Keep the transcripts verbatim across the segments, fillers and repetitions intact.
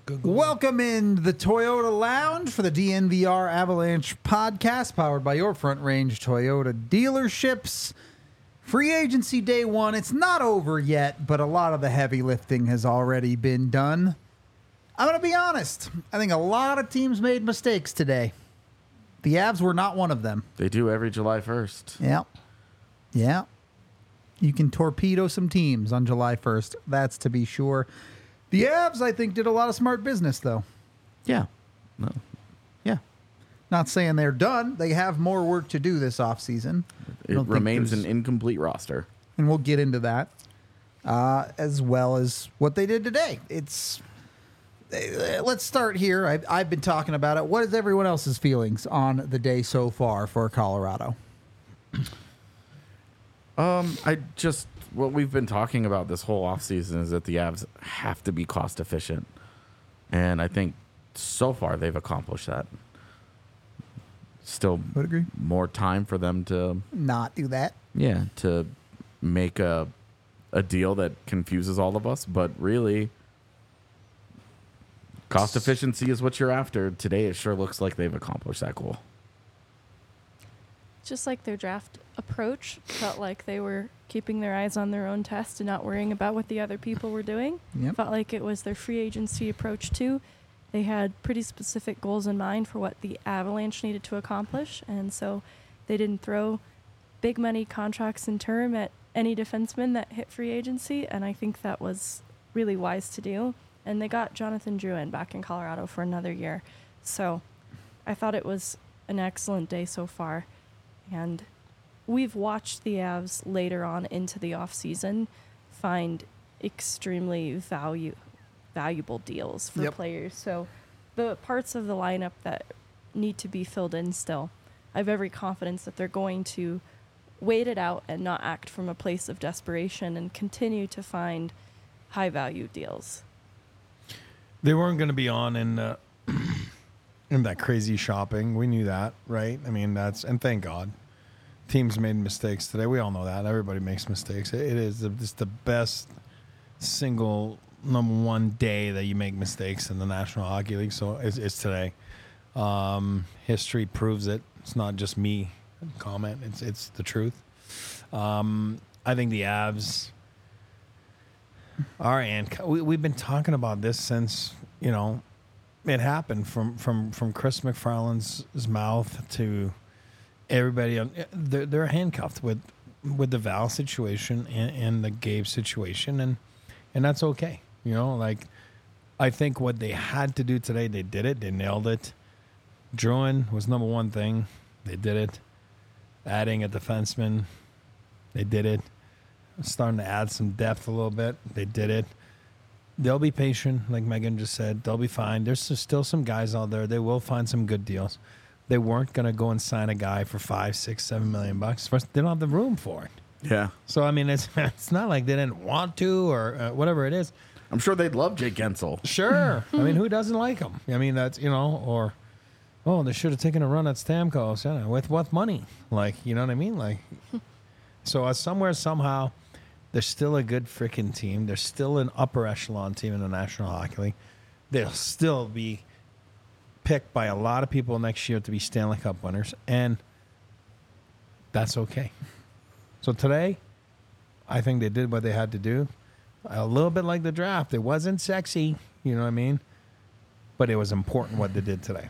Google. Welcome in the Toyota Lounge for the D N V R Avalanche podcast, powered by your Front Range Toyota dealerships. Free agency day one. It's not over yet, but a lot of the heavy lifting has already been done. I'm going to be honest. I think a lot of teams made mistakes today. The Avs were not one of them. They do every July first. Yeah. Yeah. You can torpedo some teams on July first. That's to be sure. The Avs, I think, did a lot of smart business, though. Yeah. No. Yeah. Not saying they're done. They have more work to do this offseason. It remains an incomplete roster. And we'll get into that, uh, as well as what they did today. It's uh, let's start here. I've, I've been talking about it. What is everyone else's feelings on the day so far for Colorado? Um, I just what we've been talking about this whole offseason is that the Avs have to be cost efficient, and I think so far they've accomplished that. Still, Would agree. More time for them to Not do that. yeah to make a a deal that confuses all of us, but really, cost efficiency is what you're after. Today, it sure looks like they've accomplished that goal. Just like their draft approach, felt like they were keeping their eyes on their own test and not worrying about what the other people were doing. Yep. Felt like it was their free agency approach too. They had pretty specific goals in mind for what the Avalanche needed to accomplish, and so they didn't throw big money contracts in term at any defenseman that hit free agency, and I think that was really wise to do. And they got Jonathan Drouin back in Colorado for another year. So I thought it was an excellent day so far. And we've watched the Avs later on into the offseason find extremely value, valuable deals for Yep. players. So the parts of the lineup that need to be filled in still, I have every confidence that they're going to wait it out and not act from a place of desperation and continue to find high-value deals. They weren't going to be on in uh, in that crazy shopping. We knew that, right? I mean, that's and thank God. Teams made mistakes today. We all know that. Everybody makes mistakes. It is the, it's the best single number one day that you make mistakes in the National Hockey League. So it's, it's today. Um, history proves it. It's not just me comment. It's it's the truth. Um, I think the Avs are, and we, we've been talking about this since, you know, it happened from, from, from Chris McFarland's mouth to everybody. They're, they're handcuffed with, with the Val situation and, and the Gabe situation, and, and that's okay. You know, like, I think what they had to do today, they did it. They nailed it. Drouin was number one thing. They did it. Adding a defenseman, they did it. Starting to add some depth a little bit, they did it. They'll be patient, like Megan just said. They'll be fine. There's still some guys out there. They will find some good deals. They weren't going to go and sign a guy for five, six, seven million bucks. First, they don't have the room for it. Yeah. So, I mean, it's it's not like they didn't want to or uh, whatever it is. I'm sure they'd love Jake Gensel. Sure. I mean, who doesn't like him? I mean, that's, you know, or, oh, they should have taken a run at Stamkos. You know, with what money? Like, you know what I mean? Like, so uh, somewhere, somehow, they're still a good freaking team. They're still an upper echelon team in the National Hockey League. They'll still be picked by a lot of people next year to be Stanley Cup winners, and that's okay. So today, I think they did what they had to do. A little bit like the draft. It wasn't sexy, you know what I mean? But it was important what they did today.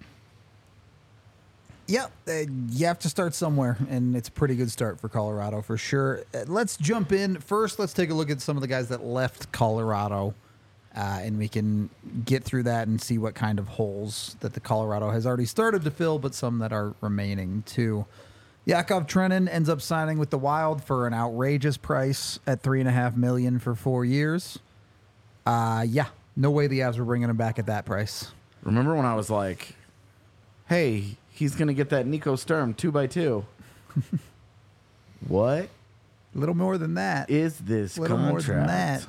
Yep, uh, you have to start somewhere, and it's a pretty good start for Colorado for sure. Uh, let's jump in. First, let's take a look at some of the guys that left Colorado, uh, and we can get through that and see what kind of holes that the Colorado has already started to fill, but some that are remaining too. Yakov Trenin ends up signing with the Wild for an outrageous price at three and a half million for four years. Uh, yeah, no way the Avs were bringing him back at that price. Remember when I was like, hey, he's going to get that Nico Sturm two by two. What A little more than that. is this A little contract? more than that.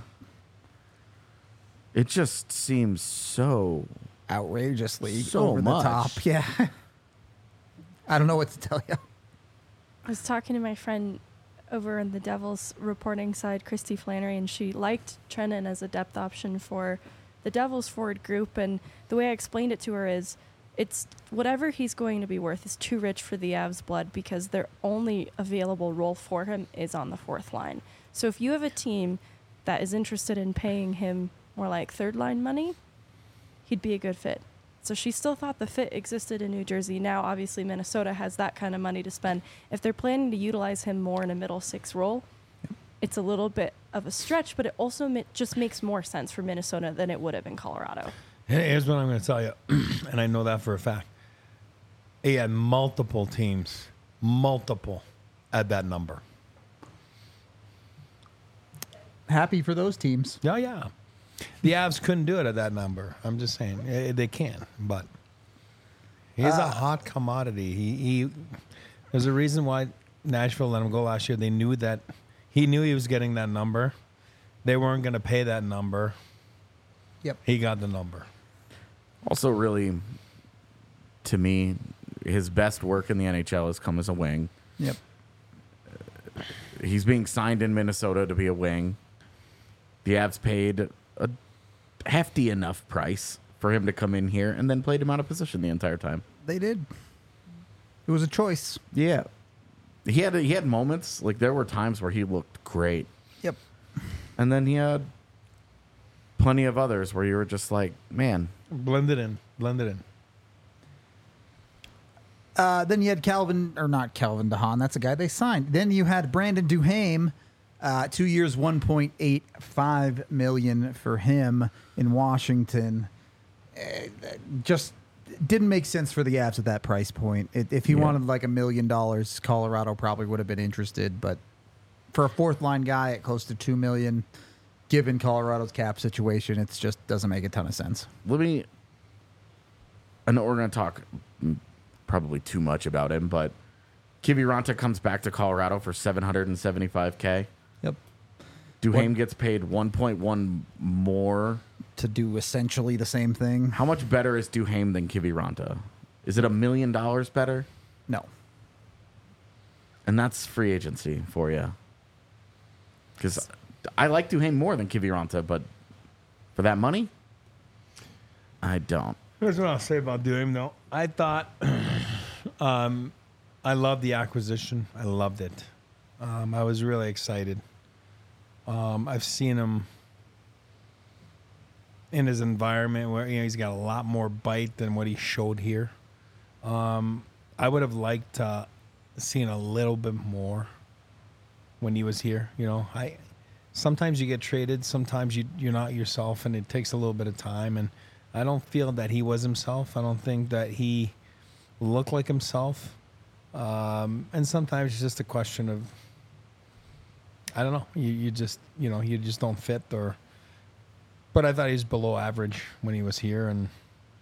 It just seems so... Outrageously So over much. the top. Yeah. I don't know what to tell you. I was talking to my friend over on the Devils reporting side, Christy Flannery, and she liked Trenin as a depth option for the Devils forward group. And the way I explained it to her is it's whatever he's going to be worth is too rich for the Avs blood because their only available role for him is on the fourth line. So if you have a team that is interested in paying him more like third line money, he'd be a good fit. So she still thought the fit existed in New Jersey. Now, obviously, Minnesota has that kind of money to spend. If they're planning to utilize him more in a middle six role, it's a little bit of a stretch, but it also ma- just makes more sense for Minnesota than it would have in Colorado. Here's what I'm going to tell you, and I know that for a fact. He had multiple teams, multiple, at that number. Happy for those teams. Oh, yeah. The Avs couldn't do it at that number. I'm just saying. Eh, They can, but he's a Uh, hot commodity. He, he There's a reason why Nashville let him go last year. They knew that he knew he was getting that number. They weren't going to pay that number. Yep. He got the number. Also, really, to me, his best work in the N H L has come as a wing. Yep. He's being signed in Minnesota to be a wing. The Avs paid a hefty enough price for him to come in here and then played him out of position the entire time. They did. It was a choice. Yeah. He had he had moments, like there were times where he looked great. Yep. And then he had plenty of others where you were just like, man, Blended in. Blended in. Uh, then you had Calvin, or not Calvin DeHaan. That's a guy they signed. Then you had Brandon Duhaime, uh, two years, one point eight five million dollars for him in Washington. Uh, just didn't make sense for the Avs at that price point. It, if he Yeah. wanted like a million dollars, Colorado probably would have been interested. But for a fourth line guy at close to two million dollars, given Colorado's cap situation, it just doesn't make a ton of sense. let me. I know we're going to talk mm, probably too much about him, but Kiviranta comes back to Colorado for seven hundred seventy-five K. Yep. Duhaime gets paid one point one more. To do essentially the same thing. How much better is Duhaime than Kiviranta? Is it a million dollars better? No. And that's free agency for you. Because I like Duhaime more than Kiviranta, but for that money, I don't. Here's what I'll say about Duhaime, though. I thought, um, I loved the acquisition. I loved it. Um, I was really excited. Um, I've seen him in his environment where you know he's got a lot more bite than what he showed here. Um, I would have liked to seen a little bit more when he was here. You know, I sometimes you get traded, sometimes you you're not yourself, and it takes a little bit of time. And I don't feel that he was himself. I don't think that he looked like himself. Um, and sometimes it's just a question of I don't know. You you just you know you just don't fit or. But I thought he was below average when he was here. And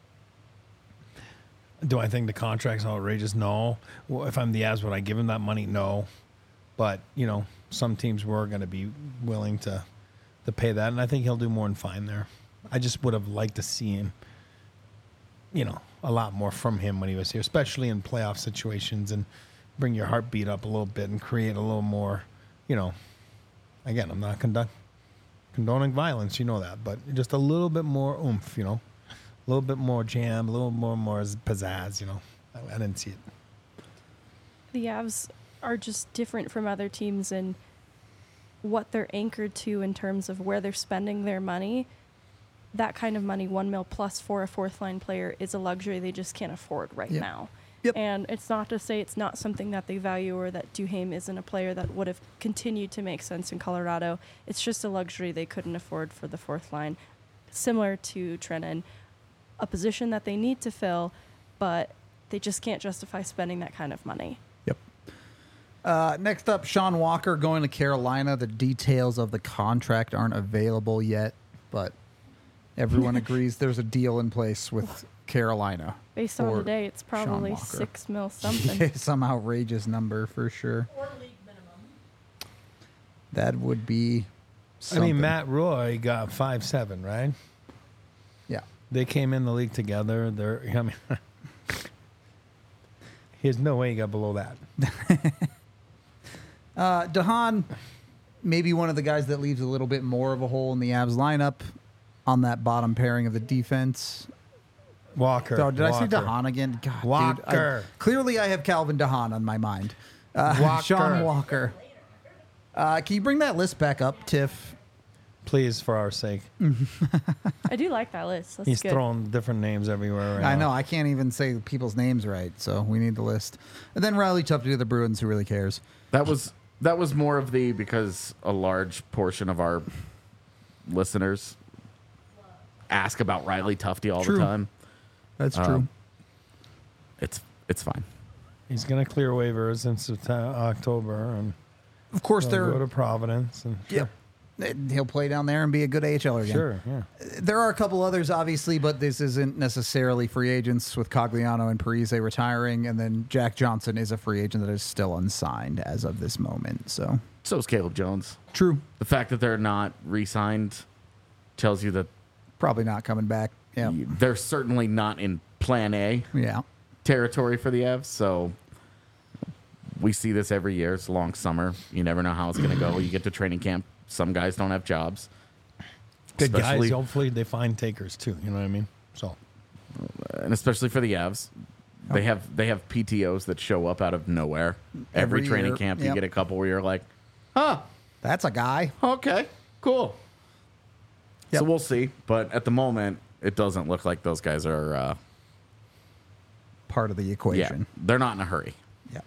do I think the contract's outrageous? No. Well, if I'm the Avs, would I give him that money? No. But, you know, some teams were going to be willing to to pay that. And I think he'll do more than fine there. I just would have liked to see him, you know, a lot more from him when he was here, especially in playoff situations and bring your heartbeat up a little bit and create a little more, you know, again, I'm not conduct. condoning violence, you know that, but just a little bit more oomph, you know, a little bit more jam, a little more more pizzazz, you know. I, I didn't see it. The Avs are just different from other teams in what they're anchored to in terms of where they're spending their money. That kind of money, one mil plus for a fourth line player, is a luxury they just can't afford right Yep. now. Yep. And it's not to say it's not something that they value or that Duhaime isn't a player that would have continued to make sense in Colorado. It's just a luxury they couldn't afford for the fourth line. Similar to Trenin, a position that they need to fill, but they just can't justify spending that kind of money. Yep. Uh, next up, Sean Walker going to Carolina. The details of the contract aren't available yet, but everyone agrees there's a deal in place with Carolina. Based on for today, it's Sean probably Walker. six mil something. Yeah, some outrageous number for sure. Or league minimum. That would be I something. mean, Matt Roy got five seven, right? Yeah. They came in the league together. They're, I mean, there's no way he got below that. Uh, DeHaan, maybe one of the guys that leaves a little bit more of a hole in the Avs lineup. on that bottom pairing of the defense. Walker. Oh, did I say Walker. DeHaan again? God, Walker. Dude, I, clearly, I have Calvin DeHaan on my mind. Uh, Walker. Sean Walker. Uh, can you bring that list back up, Tiff? Please, for our sake. I do like that list. That's He's good. throwing different names everywhere right I now. know. I can't even say people's names right, so we need the list. And then Riley Tupper to the Bruins. Who really cares? That was that was more of the because a large portion of our listeners ask about Riley Tufte all True. the time. That's true. Um, It's it's fine. He's going to clear waivers in September, October, and of course, he'll they're go to Providence. And yeah. He'll play down there and be a good A H L again. Sure, yeah. There are a couple others, obviously, but this isn't necessarily free agents with Cogliano and Parise retiring, and then Jack Johnson is a free agent that is still unsigned as of this moment. So So is Caleb Jones. true, The fact that they're not re-signed tells you that probably not coming back. Yeah, they're certainly not in Plan A yeah. territory for the Avs. So we see this every year. It's a long summer. You never know how it's going to go. You get to training camp. Some guys don't have jobs. Good Especially- guys. Hopefully, they find takers too. You know what I mean? So And especially for the Avs, they have they have P T Os that show up out of nowhere. Every, Every training year, camp, you yep. get a couple where you're like, huh, That's a guy. okay, cool. Yep. So we'll see. But at the moment, it doesn't look like those guys are, uh, Part of the yeah, equation. they're not in a hurry. Yeah.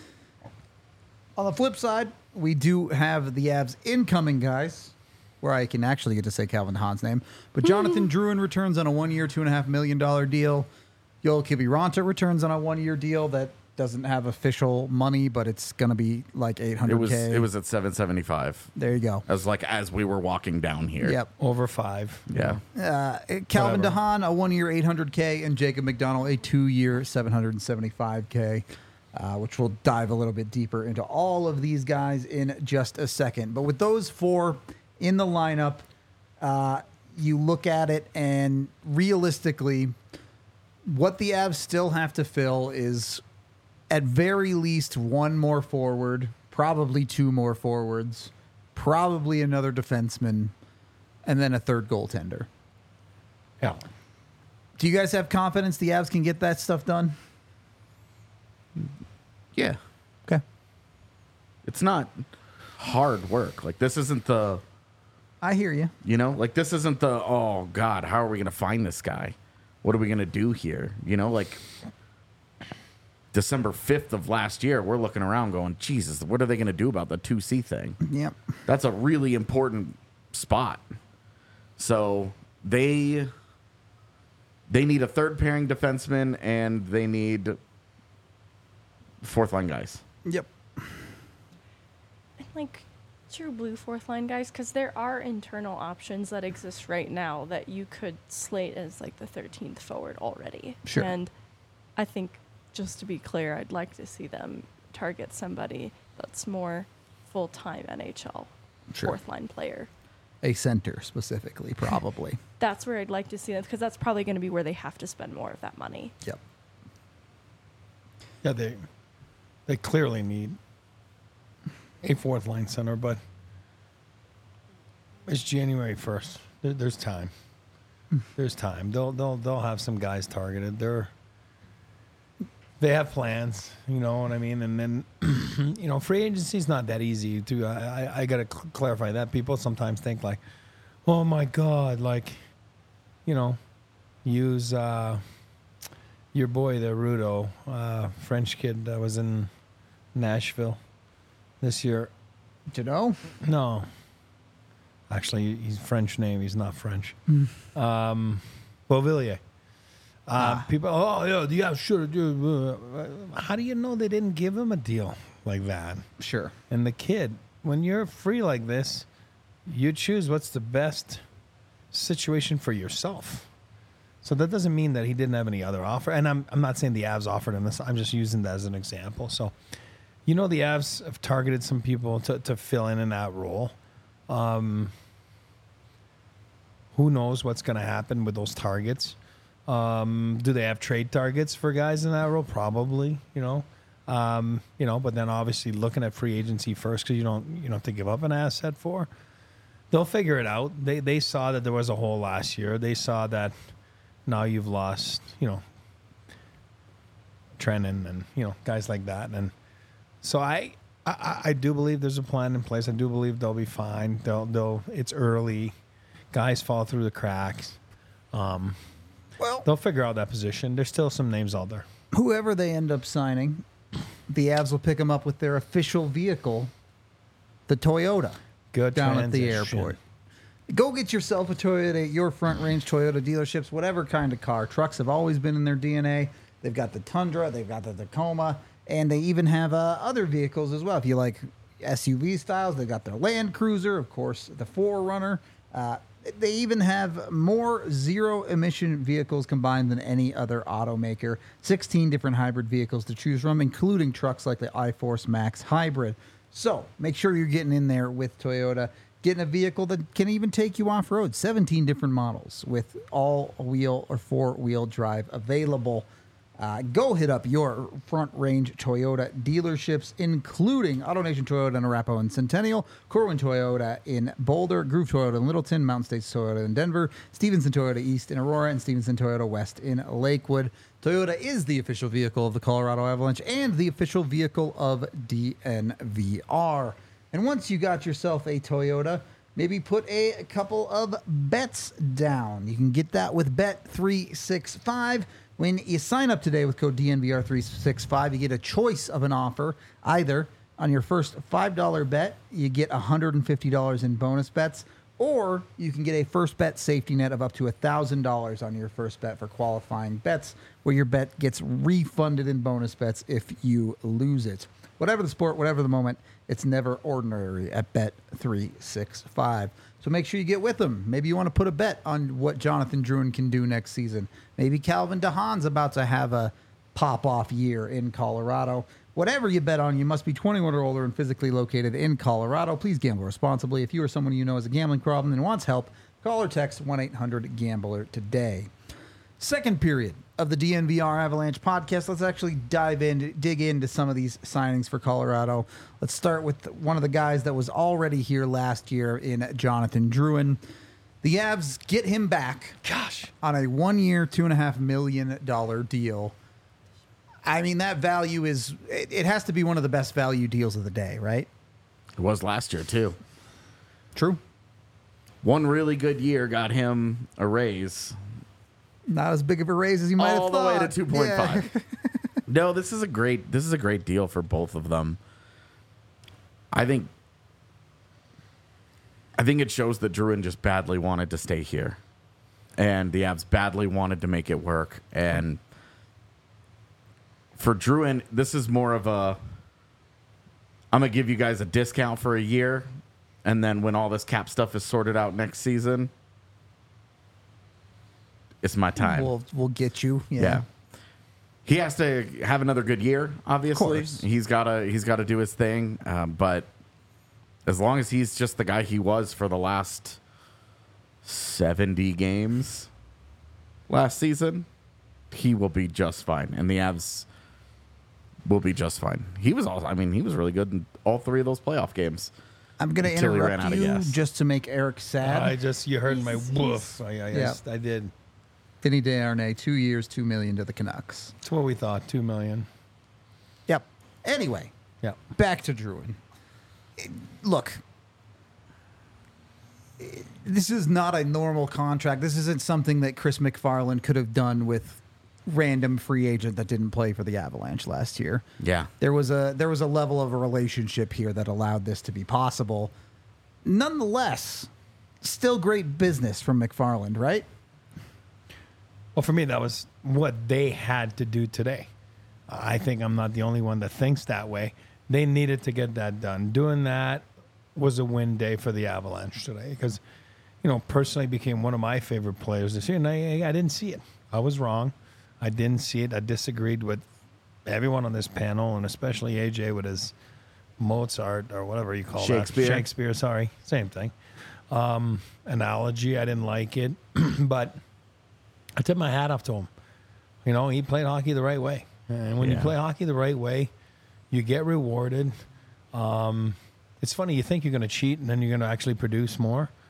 On the flip side, we do have the Avs incoming guys, where I can actually get to say Calvin Hahn's name. But Jonathan Drouin returns on a one-year, two and a half million dollar deal. Yoel Kiviranta returns on a one-year deal that doesn't have official money, but it's going to be like eight It hundred k. was it was at seven seventy-five. There you go. As like as we were walking down here. Yep. over five. you Yeah. know. Uh, Calvin Whatever. DeHaan, a one-year, eight hundred k, and Jacob McDonald, a two-year, seven hundred seventy-five k. Uh, which we'll dive a little bit deeper into all of these guys in just a second. But with those four in the lineup, uh, you look at it, and realistically, what the Avs still have to fill is at very least one more forward, probably two more forwards, probably another defenseman, and then a third goaltender. Yeah. Do you guys have confidence the Avs can get that stuff done? Yeah. Okay. It's not hard work. Like this isn't the I hear you. You know, like this isn't the, oh God, how are we going to find this guy? What are we going to do here? You know, like December fifth of last year, we're looking around going, Jesus, what are they going to do about the two C thing? Yep. That's a really important spot. So they they need a third pairing defenseman and they need fourth line guys. Yep. And like true blue fourth line guys, because there are internal options that exist right now that you could slate as like the thirteenth forward already. Sure. And I think, just to be clear, I'd like to see them target somebody that's more full-time N H L Sure. fourth line player. A center specifically, probably. That's where I'd like to see them, because that's probably going to be where they have to spend more of that money. Yep. Yeah, they they clearly need a fourth line center, but it's January first. There, there's time. There's time. They'll they'll they'll have some guys targeted. They're they have plans, you know what I mean. And then you know, free agency is not that easy. To I I, I got to cl- clarify that. People sometimes think like, oh my God, like, you know, use. Uh, Your boy, the Rudo, uh, French kid that was in Nashville this year. Do you know? No. Actually, he's French name. He's not French. Um, Beauvillier. Uh, People, oh, yeah, the Avs should do. How do you know they didn't give him a deal like that? Sure. And the kid, when you're free like this, you choose what's the best situation for yourself. So that doesn't mean that he didn't have any other offer. And I'm I'm not saying the Avs offered him this. I'm just using that as an example. So, you know, the Avs have targeted some people to, to fill in in that role. Um, who knows what's going to happen with those targets? Um, do they have trade targets for guys in that role? Probably, you know. Um, you know, but then obviously looking at free agency first, because you don't you don't have to give up an asset for. they'll figure it out. They they saw that there was a hole last year. They saw that now you've lost, you know, Trennan and you know guys like that, and so I, I I do believe there's a plan in place. I do believe they'll be fine. They'll they'll it's early, guys fall through the cracks. Um, Well, they'll figure out that position. There's still some names out there. whoever they end up signing, the Avs will pick them up with their official vehicle, the Toyota, Good down at the transition. airport. Go get yourself a Toyota at your Front Range Toyota dealerships, whatever kind of car. Trucks have always been in their D N A. They've got the Tundra, they've got the Tacoma, and they even have uh, other vehicles as well. If you like S U V styles, they've got their Land Cruiser, of course, the four runner. Uh, they even have more zero-emission vehicles combined than any other automaker. sixteen different hybrid vehicles to choose from, including trucks like the iForce Max Hybrid. So make sure you're getting in there with Toyota, getting a vehicle that can even take you off-road. seventeen different models with all-wheel or four-wheel drive available. Uh, go hit up your Front Range Toyota dealerships, including AutoNation Toyota in Arapahoe and Centennial, Corwin Toyota in Boulder, Groove Toyota in Littleton, Mountain States Toyota in Denver, Stevenson Toyota East in Aurora, and Stevenson Toyota West in Lakewood. Toyota is the official vehicle of the Colorado Avalanche and the official vehicle of D N V R. And once you got yourself a Toyota, maybe put a couple of bets down. You can get that with Bet three sixty-five. When you sign up today with code D N V R three sixty-five, you get a choice of an offer. Either on your first five dollar bet, you get one hundred fifty dollars in bonus bets, or you can get a first bet safety net of up to one thousand dollars on your first bet for qualifying bets, where your bet gets refunded in bonus bets if you lose it. Whatever the sport, whatever the moment, it's never ordinary at Bet three sixty-five. So make sure you get with them. Maybe you want to put a bet on what Jonathan Drouin can do next season. Maybe Calvin DeHaan's about to have a pop-off year in Colorado. Whatever you bet on, you must be twenty-one or older and physically located in Colorado. Please gamble responsibly. If you or someone you know has a gambling problem and wants help, call or text one eight hundred gambler today. Second period of the D N V R Avalanche podcast. Let's actually dive in, dig into some of these signings for Colorado. Let's start with one of the guys that was already here last year in Jonathan Drouin. The Avs get him back, gosh, on a one-year, two and a half million dollar deal. I mean, that value is, it, it has to be one of the best value deals of the day, right? It was last year, too. True. One really good year got him a raise. Not as big of a raise as you might all have the thought. way to two point five. Yeah. No, this is a great this is a great deal for both of them. I think I think it shows that Drouin just badly wanted to stay here. And the Avs badly wanted to make it work. And for Drouin, this is more of a I'm gonna give you guys a discount for a year, and then when all this cap stuff is sorted out next season, it's my time. We'll we'll get you. Yeah. Yeah. He has to have another good year, obviously. course. He's gotta he's gotta do his thing. Um, but as long as he's just the guy he was for the last seventy games last season, he will be just fine. And the Avs will be just fine. He was also I mean, he was really good in all three of those playoff games. I'm going to Until he ran interrupt out of you gas. just to make Eric sad. I just you heard my He's- woof. I, I, Yeah. I, I did. Vinny Desharnais, two years, two million to the Canucks. That's what we thought. Two million. Yep. Anyway, Yeah. back to Drouin. It- Look, it- this is not a normal contract. This isn't something that Chris McFarland could have done with random free agent that didn't play for the Avalanche last year. Yeah. There was a there was a level of a relationship here that allowed this to be possible. Nonetheless, still great business from McFarland, right? Well, for me, that was what they had to do today. I think I'm not the only one that thinks that way. They needed to get that done. Doing that was a win day for the Avalanche today because, you know, personally became one of my favorite players this year, and I, I didn't see it. I was wrong. I didn't see it. I disagreed with everyone on this panel, and especially A J with his Mozart or whatever you call Shakespeare. that. Shakespeare, sorry. Same thing. Um, analogy, I didn't like it, but I tip my hat off to him. You know, he played hockey the right way. And when you Yeah. play hockey the right way, you get rewarded. Um, it's funny, you think you're going to cheat and then you're going to actually produce more.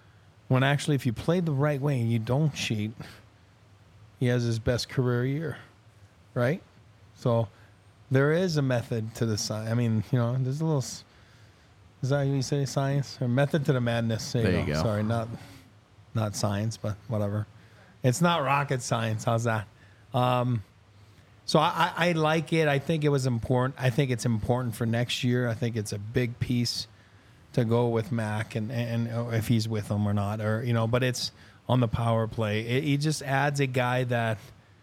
When actually, if you play the right way and you don't cheat, he has his best career year, right? So there is a method to the science. I mean, you know, there's a little. Is that how you say science or method to the madness? There, There you go. Sorry, not not science, but whatever. It's not rocket science. How's that? Um, so I, I, I like it. I think it was important. I think it's important for next year. I think it's a big piece to go with Mac and, and and if he's with them or not, or you know. But it's on the power play. It, he just adds a guy that.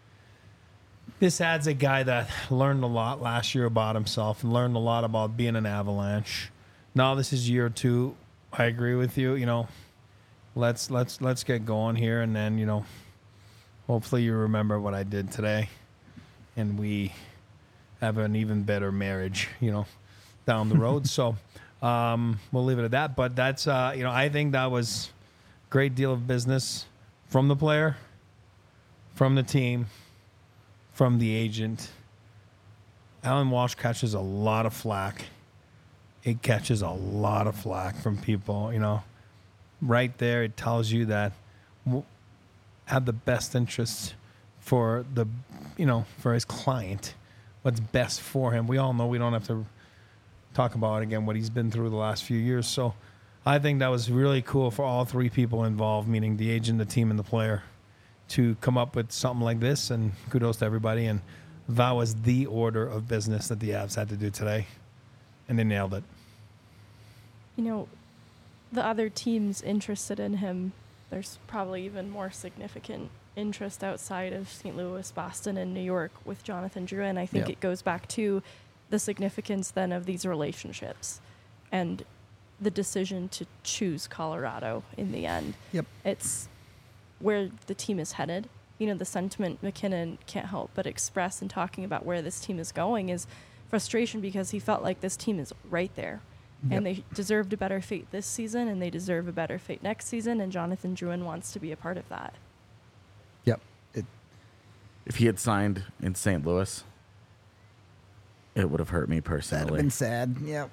This adds a guy that learned a lot last year about himself and learned a lot about being an Avalanche. Now this is year two. I agree with you. You know, let's let's let's get going here, and then you know, hopefully you remember what I did today, and we have an even better marriage. You know, down the road. So um, we'll leave it at that. But that's uh, you know, I think that was a great deal of business from the player, from the team, from the agent. Alan Walsh catches a lot of flack. It catches a lot of flack from people, you know. Right there, it tells you that w- have the best interests for the, you know, for his client. What's best for him. We all know we don't have to talk about again what he's been through the last few years. So I think that was really cool for all three people involved, meaning the agent, the team, and the player, to come up with something like this. And kudos to everybody. And that was the order of business that the Avs had to do today. And they nailed it. You know, the other teams interested in him, there's probably even more significant interest outside of Saint Louis, Boston, and New York with Jonathan Drouin. I think Yep. it goes back to the significance then of these relationships and the decision to choose Colorado in the end. Yep. It's where the team is headed. You know, the sentiment McKinnon can't help but express in talking about where this team is going is frustration because he felt like this team is right there. Yep. And they deserved a better fate this season, and they deserve a better fate next season, and Jonathan Drouin wants to be a part of that. Yep. It, If he had signed in Saint Louis, it would have hurt me that'd have personally. been sad. Yep.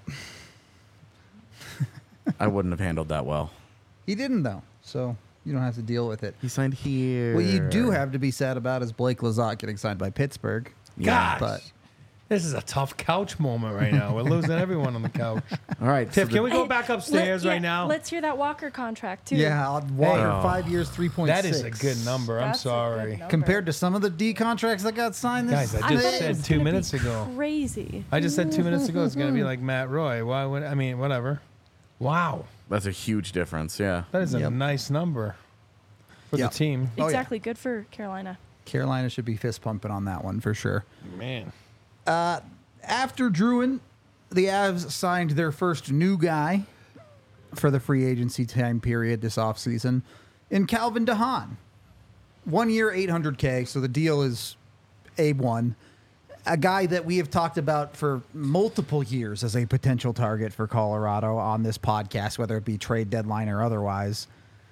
I wouldn't have handled that well. He didn't, though, so you don't have to deal with it. He signed here. What you do have to be sad about is Blake Lizotte getting signed by Pittsburgh. Yeah. Gosh. But This is a tough couch moment right now. We're losing everyone on the couch. All right. Tiff, so can we the- go back upstairs Let- right yeah, now? Let's hear that Walker contract, too. yeah, I'll Walker, Hey. five years, three point six. That is a good number. I'm That's a good sorry. number. Compared to some of the D contracts that got signed this Guys, I I just bet it said was two gonna be minutes ago. Crazy. I just said two minutes ago it's going to be like Matt Roy. Why would I mean, whatever. Wow. That's a huge difference. Yeah. That is a Yep. nice number for Yep. the team. Oh, yeah. Exactly. Good for Carolina. Carolina should be fist pumping on that one for sure. Man. After Drouin, the Avs signed their first new guy for the free agency time period this offseason in Calvin DeHaan. One year, eight hundred K, so the deal is A one. A guy that we have talked about for multiple years as a potential target for Colorado on this podcast, whether it be trade deadline or otherwise.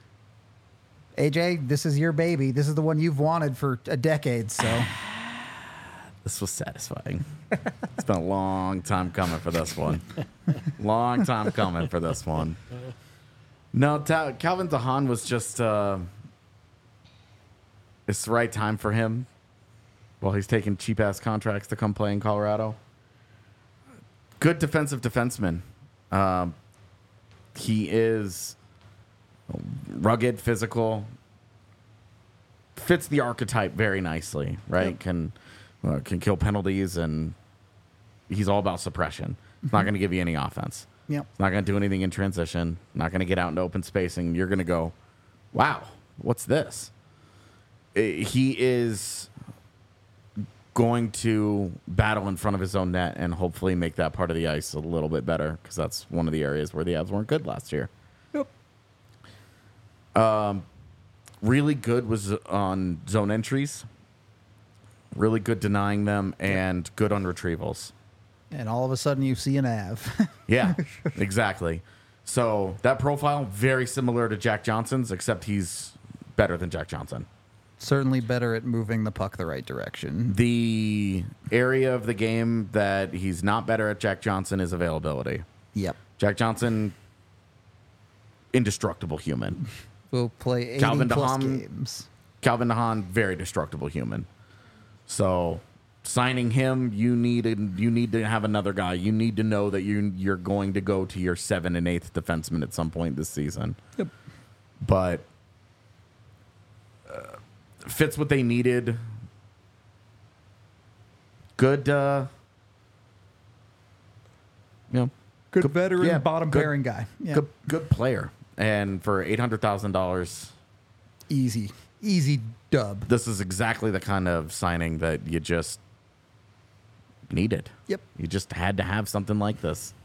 A J, this is your baby. This is the one you've wanted for a decade, so... This was satisfying. It's been a long time coming for this one. Long time coming for this one. No, Ta- Calvin DeHaan was just, uh, it's the right time for him while he's taking cheap ass contracts to come play in Colorado. Good defensive defenseman. Um, he is rugged, physical, fits the archetype very nicely, right? Yep. Can uh, can kill penalties, and he's all about suppression. He's not going to give you any offense. Yep. He's not going to do anything in transition. Not going to get out into open spacing. You're going to go, wow, what's this? I- He is going to battle in front of his own net and hopefully make that part of the ice a little bit better, because that's one of the areas where the Avs weren't good last year. Yep. Um, really good was on zone entries. Really good denying them, and good on retrievals. And all of a sudden you see an Av. Yeah, exactly. So that profile, very similar to Jack Johnson's, except he's better than Jack Johnson. Certainly better at moving the puck the right direction. The area of the game that he's not better at Jack Johnson is availability. Yep. Jack Johnson, indestructible human. will play eighty Calvin plus DeHaan- games. Calvin DeHaan, very destructible human. So signing him, you need a, you need to have another guy. You need to know that you you're going to go to your seventh and eighth defenseman at some point this season. Yep. But uh, fits what they needed. Good, uh, you know, Good, Good- veteran, yeah, bottom good- pairing guy. Yeah. good good player. And for eight hundred thousand dollars, Easy. Easy dub. this is exactly the kind of signing that you just needed. Yep. You just had to have something like this.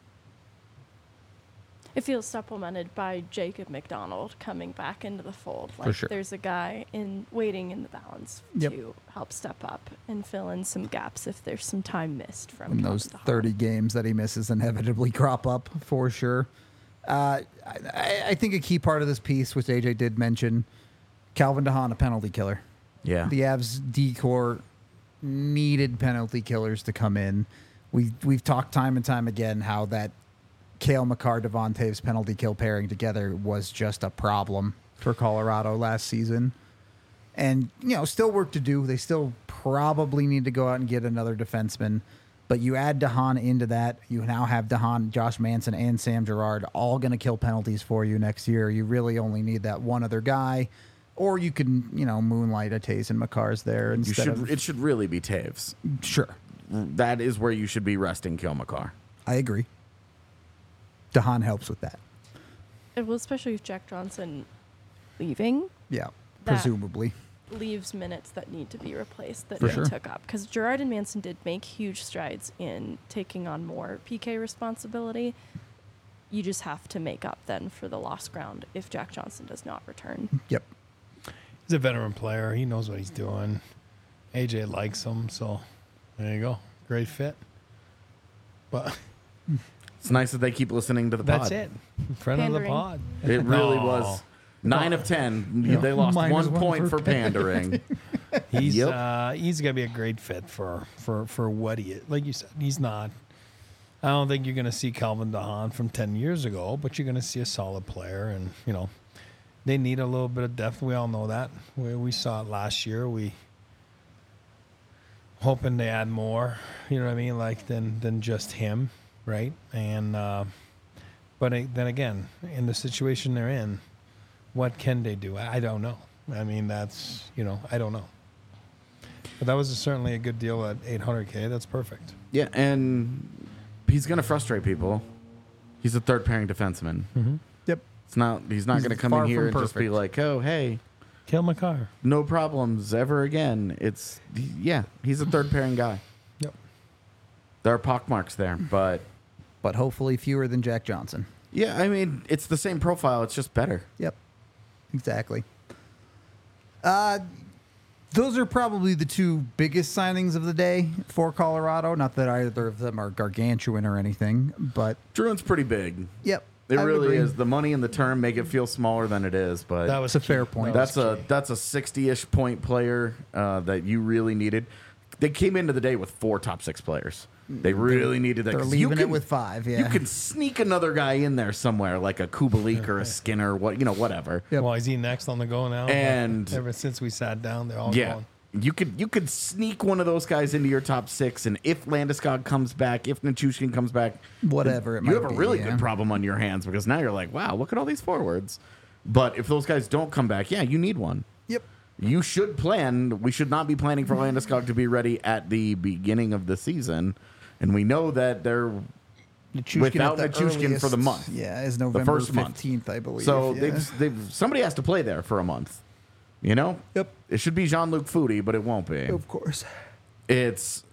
It feels supplemented by Jacob McDonald coming back into the fold. Like sure. there's a guy in waiting in the balance Yep. to help step up and fill in some gaps if there's some time missed from And those Calvin DeHaan. thirty games that he misses inevitably crop up for sure. Uh, I, I think a key part of this piece, which A J did mention, Calvin DeHaan, a penalty killer. Yeah. The Avs D-core needed penalty killers to come in. We we've talked time and time again how that Cale Makar Devon Taves penalty kill pairing together was just a problem for Colorado last season. And, you know, still work to do. They still probably need to go out and get another defenseman. But you add DeHaan into that. You now have DeHaan, Josh Manson, and Sam Girard all going to kill penalties for you next year. You really only need that one other guy. Or you can, you know, moonlight a Taves and Makars there You instead should, of... it should really be Taves. Sure. That is where you should be resting Cale Makar. I agree. DeHaan helps with that. Uh, Well, especially with Jack Johnson leaving, Yeah, That- presumably. leaves minutes that need to be replaced that For they sure. took up. Because Gerard and Manson did make huge strides in taking on more P K responsibility. You just have to make up then for the lost ground if Jack Johnson does not return. Yep. He's a veteran player. He knows what he's doing. A J likes him, so there you go. Great fit. But It's nice that they keep listening to the that's pod. it. Friend of the Pandering. pod. It really No. was. Nine of ten. Yeah. They lost Minus one one point for for pandering. He's Yep. uh, he's gonna be a great fit for for for what he is. Like you said, he's not. I don't think you're gonna see Calvin DeHaan from ten years ago, but you're gonna see a solid player, and you know they need a little bit of depth. We all know that. We we saw it last year. We hoping to add more. You know what I mean? Like than than just him, right? And uh, but uh, then again, in the situation they're in, what can they do? I don't know. I mean, that's, you know, I don't know. But that was certainly a good deal at eight hundred K. That's perfect. Yeah, and he's going to frustrate people. He's a third pairing defenseman. Yep. It's not. He's not He's going to come far in here from and just be perfect. like, "Oh, hey, Cale Makar. no problems ever again." It's yeah, he's a third pairing guy. Yep. There are pockmarks there, but But hopefully fewer than Jack Johnson. yeah, I mean, it's the same profile. It's just better. Yep. Exactly. Uh, those are probably the two biggest signings of the day for Colorado. Not that either of them are gargantuan or anything, but Druin's pretty big. yep. It I would really agree. is. The money and the term make it feel smaller than it is, but That was It's a fair key. point. That that's was a key. that's a sixty-ish point player uh, that you really needed. They came into the day with four top six players. They really needed that. They're 'cause you leaving it can- with five. Yeah. You can sneak another guy in there somewhere, like a Kubalik or a Skinner, what you know, whatever. Yep. Well, is he next on the go now? And- ever since we sat down, they're all Yeah. going. You could you could sneak one of those guys into your top six, and if Landeskog comes back, if Nichushkin comes back, Whatever it you might have a be, really yeah. good problem on your hands because now you're like, wow, look at all these forwards. But if those guys don't come back, yeah, you need one. Yep. You should plan. We should not be planning for Landeskog to be ready at the beginning of the season, and we know that they're Nichushkin without at the Nichushkin for the earliest, month. Yeah, is November first month. fifteenth, I believe. so yeah. they've, they've somebody has to play there for a month. You know, Yep. it should be Jean-Luc Foudy, but it won't be. Of course. It's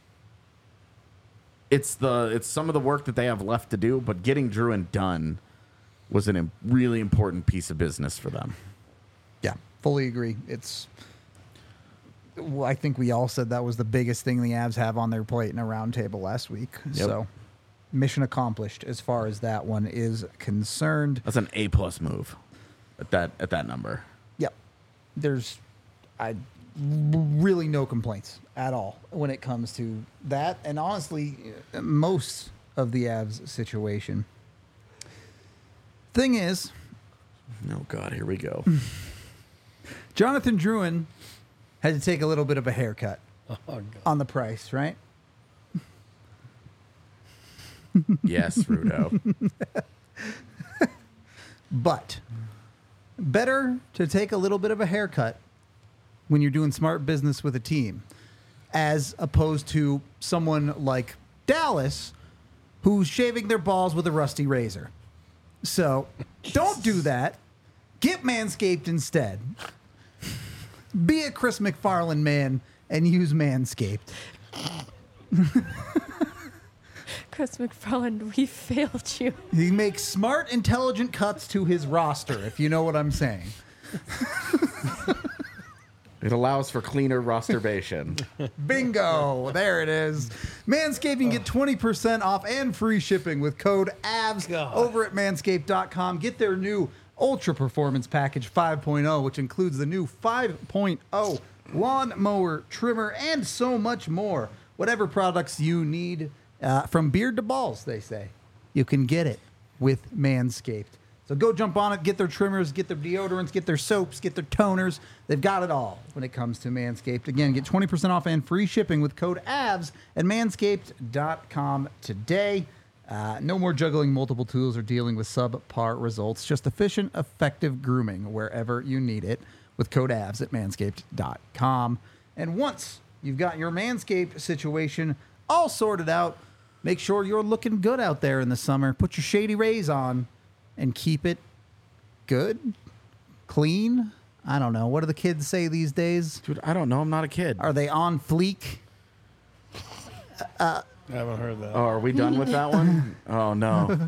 it's the it's some of the work that they have left to do, but getting Druin done was a im- really important piece of business for them. Yeah, fully agree. It's. Well, I think we all said that was the biggest thing the Avs have on their plate in a roundtable last week. Yep. So, mission accomplished as far as that one is concerned. That's an A plus move at that at that number. Yep. There's, I really no complaints at all when it comes to that, and honestly, most of the Avs situation. Thing is, Oh, God, here we go. Jonathan Drouin had to take a little bit of a haircut Oh, God. on the price, right? Yes, Rudo. But better to take a little bit of a haircut when you're doing smart business with a team as opposed to someone like Dallas who's shaving their balls with a rusty razor. So don't do that. Get Manscaped instead. Be a Chris McFarland man and use Manscaped. Chris McFarland, we failed you. He makes smart, intelligent cuts to his roster, if you know what I'm saying. It allows for cleaner rosterbation. Bingo! There it is. Manscaped, you can get twenty percent off and free shipping with code A V S God. over at manscaped dot com. Get their new Ultra Performance Package five point oh, which includes the new five point oh lawn mower, trimmer, and so much more. Whatever products you need, uh, from beard to balls, they say, you can get it with Manscaped. So go jump on it, get their trimmers, get their deodorants, get their soaps, get their toners. They've got it all when it comes to Manscaped. Again, get twenty percent off and free shipping with code A V S at manscaped dot com today. Uh, no more juggling multiple tools or dealing with subpar results. Just efficient, effective grooming wherever you need it with code A V S at manscaped dot com. And once you've got your Manscaped situation all sorted out, make sure you're looking good out there in the summer. Put your Shady Rays on and keep it good, clean. I don't know. What do the kids say these days? Dude, I don't know. I'm not a kid. Are they on fleek? I haven't heard that. Oh, are we done with that one? Oh, no.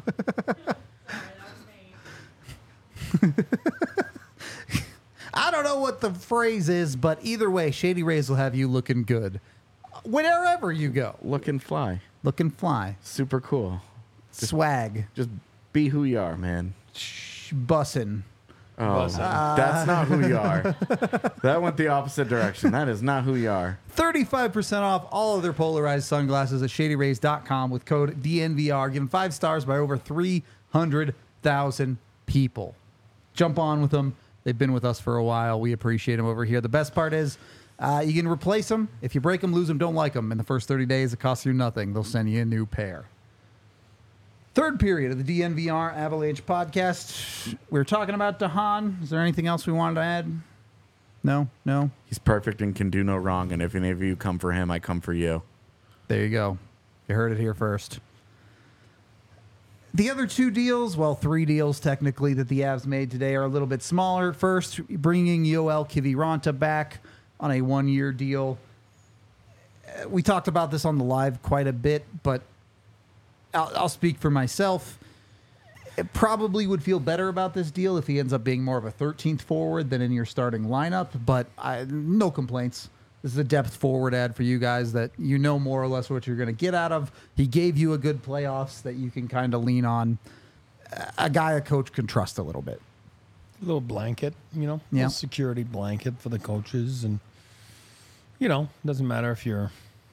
I don't know what the phrase is, but either way, Shady Rays will have you looking good wherever you go. Look and fly. Looking fly. Super cool. Swag. Just be who you are, man. Sh- bussin'. Oh, Bussin'. that's not who you are. That went the opposite direction. That is not who you are. thirty-five percent off all of their polarized sunglasses at shady rays dot com with code D N V R. Give them five stars by over three hundred thousand people. Jump on with them. They've been with us for a while. We appreciate them over here. The best part is uh, you can replace them. If you break them, lose them, don't like them. In the first thirty days, it costs you nothing. They'll send you a new pair. Third period of the D N V R Avalanche podcast. We were talking about DeHaan. Is there anything else we wanted to add? No? No? He's perfect and can do no wrong. And if any of you come for him, I come for you. There you go. You heard it here first. The other two deals, well, three deals technically that the Avs made today are a little bit smaller. First, bringing Yoel Kiviranta back on a one-year deal. Uh, We talked about this on the live quite a bit, but I'll, I'll speak for myself. It probably would feel better about this deal if he ends up being more of a thirteenth forward than in your starting lineup, but I, no complaints. This is a depth forward ad for you guys that you know more or less what you're going to get out of. He gave you a good playoffs that you can kind of lean on. A guy a coach can trust a little bit. A little blanket, you know, Yeah. little security blanket for the coaches. And, you know, doesn't matter if you're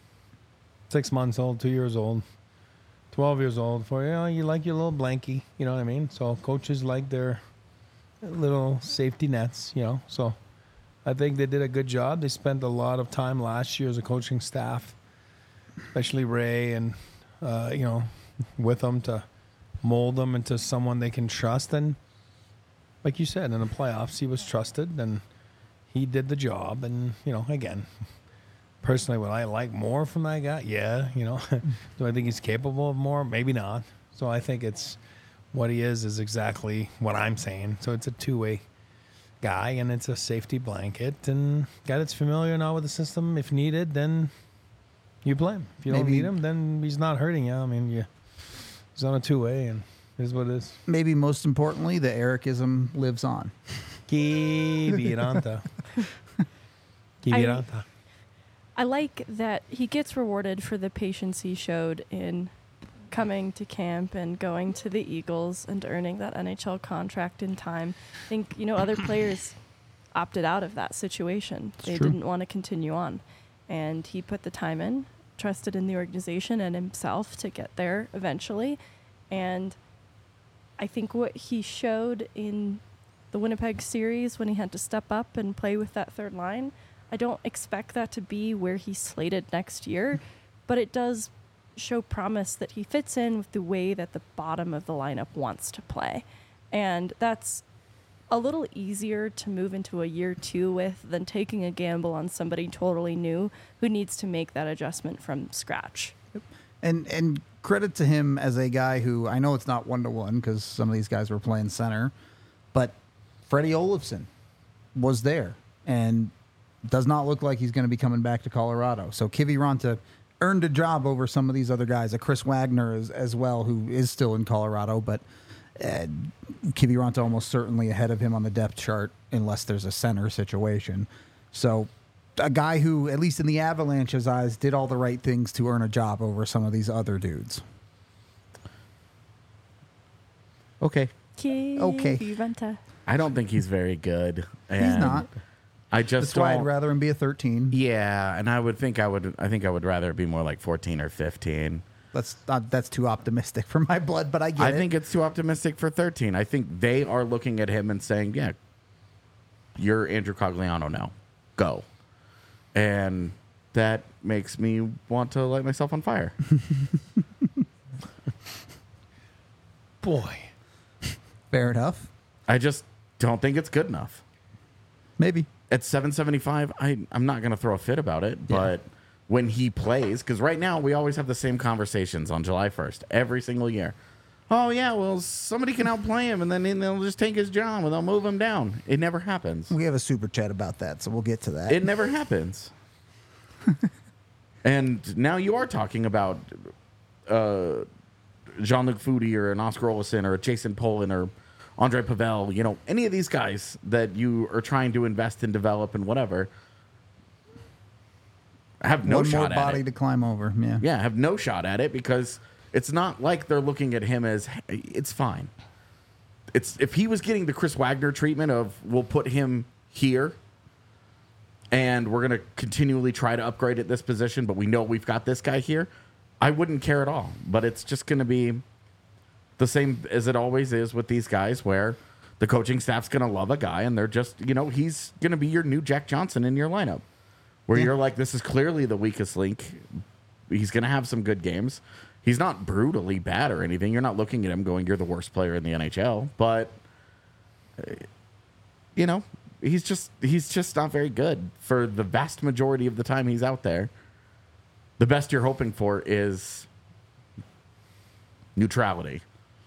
six months old, two years old, twelve years old, for you know, you like your little blankie, you know what I mean? So coaches like their little safety nets, you know. So I think they did a good job. They spent a lot of time last year as a coaching staff, especially Ray and, uh, you know, with them to mold them into someone they can trust. And like you said, in the playoffs, he was trusted and he did the job. And, you know, again, personally, would I like more from that guy? Yeah. You know, do I think he's capable of more? Maybe not. So I think it's what he is is exactly what I'm saying. So it's a two-way guy and it's a safety blanket and guy that's familiar now with the system. If needed, then you play him. If you don't Maybe- need him, then he's not hurting you. I mean, you, he's on a two-way and it is what it is. Maybe most importantly, the Ericism lives on. Kiviranta. Kiviranta. I like that he gets rewarded for the patience he showed in coming to camp and going to the Eagles and earning that N H L contract in time. I think, you know, other players opted out of that situation. It's they true. didn't want to continue on. And he put the time in, trusted in the organization and himself to get there eventually. And I think what he showed in the Winnipeg series when he had to step up and play with that third line. I don't expect that to be where he's slated next year, but it does show promise that he fits in with the way that the bottom of the lineup wants to play. And that's a little easier to move into a year two with than taking a gamble on somebody totally new who needs to make that adjustment from scratch. And and credit to him as a guy who, I know it's not one-to-one because some of these guys were playing center, but Freddie Olofsson was there and does not look like he's going to be coming back to Colorado. So Kiviranta earned a job over some of these other guys, a Chris Wagner as, as well, who is still in Colorado, but uh, Kiviranta almost certainly ahead of him on the depth chart unless there's a center situation. So a guy who, at least in the Avalanche's eyes, did all the right things to earn a job over some of these other dudes. Okay. Okay. Kiviranta. I don't think he's very good. He's and not. I just That's why I'd don't- rather him be a thirteen. Yeah, and I would think I would. I think I would rather be more like fourteen or fifteen. That's not, that's too optimistic for my blood, but I get I it. think it's too optimistic for thirteen. I think they are looking at him and saying, "Yeah, you're Andrew Cogliano now. Go." And that makes me want to light myself on fire. Boy. Fair enough. I just don't think it's good enough. Maybe. At seven seventy-five, I, I'm not going to throw a fit about it, Yeah. but when he plays, because right now we always have the same conversations on July first, every single year. Oh, yeah, well, somebody can outplay him, and then they'll just take his job, and they'll move him down. It never happens. We have a super chat about that, so we'll get to that. It never happens. And now you are talking about uh, Jean-Luc Foudy or an Oscar Olsen or a Jason Polin or Andre Pavel, you know, any of these guys that you are trying to invest and develop and whatever, have no One shot more at body it. to climb over. Yeah. Yeah, have no shot at it because it's not like they're looking at him as, "Hey, it's fine." It's if he was getting the Chris Wagner treatment of we'll put him here and we're going to continually try to upgrade at this position, but we know we've got this guy here, I wouldn't care at all. But it's just going to be the same as it always is with these guys where the coaching staff's going to love a guy and they're just, you know, he's going to be your new Jack Johnson in your lineup. Where Yeah. you're like, this is clearly the weakest link. He's going to have some good games. He's not brutally bad or anything. You're not looking at him going, you're the worst player in the N H L. But, uh, you know, he's just he's just not very good for the vast majority of the time he's out there. The best you're hoping for is neutrality.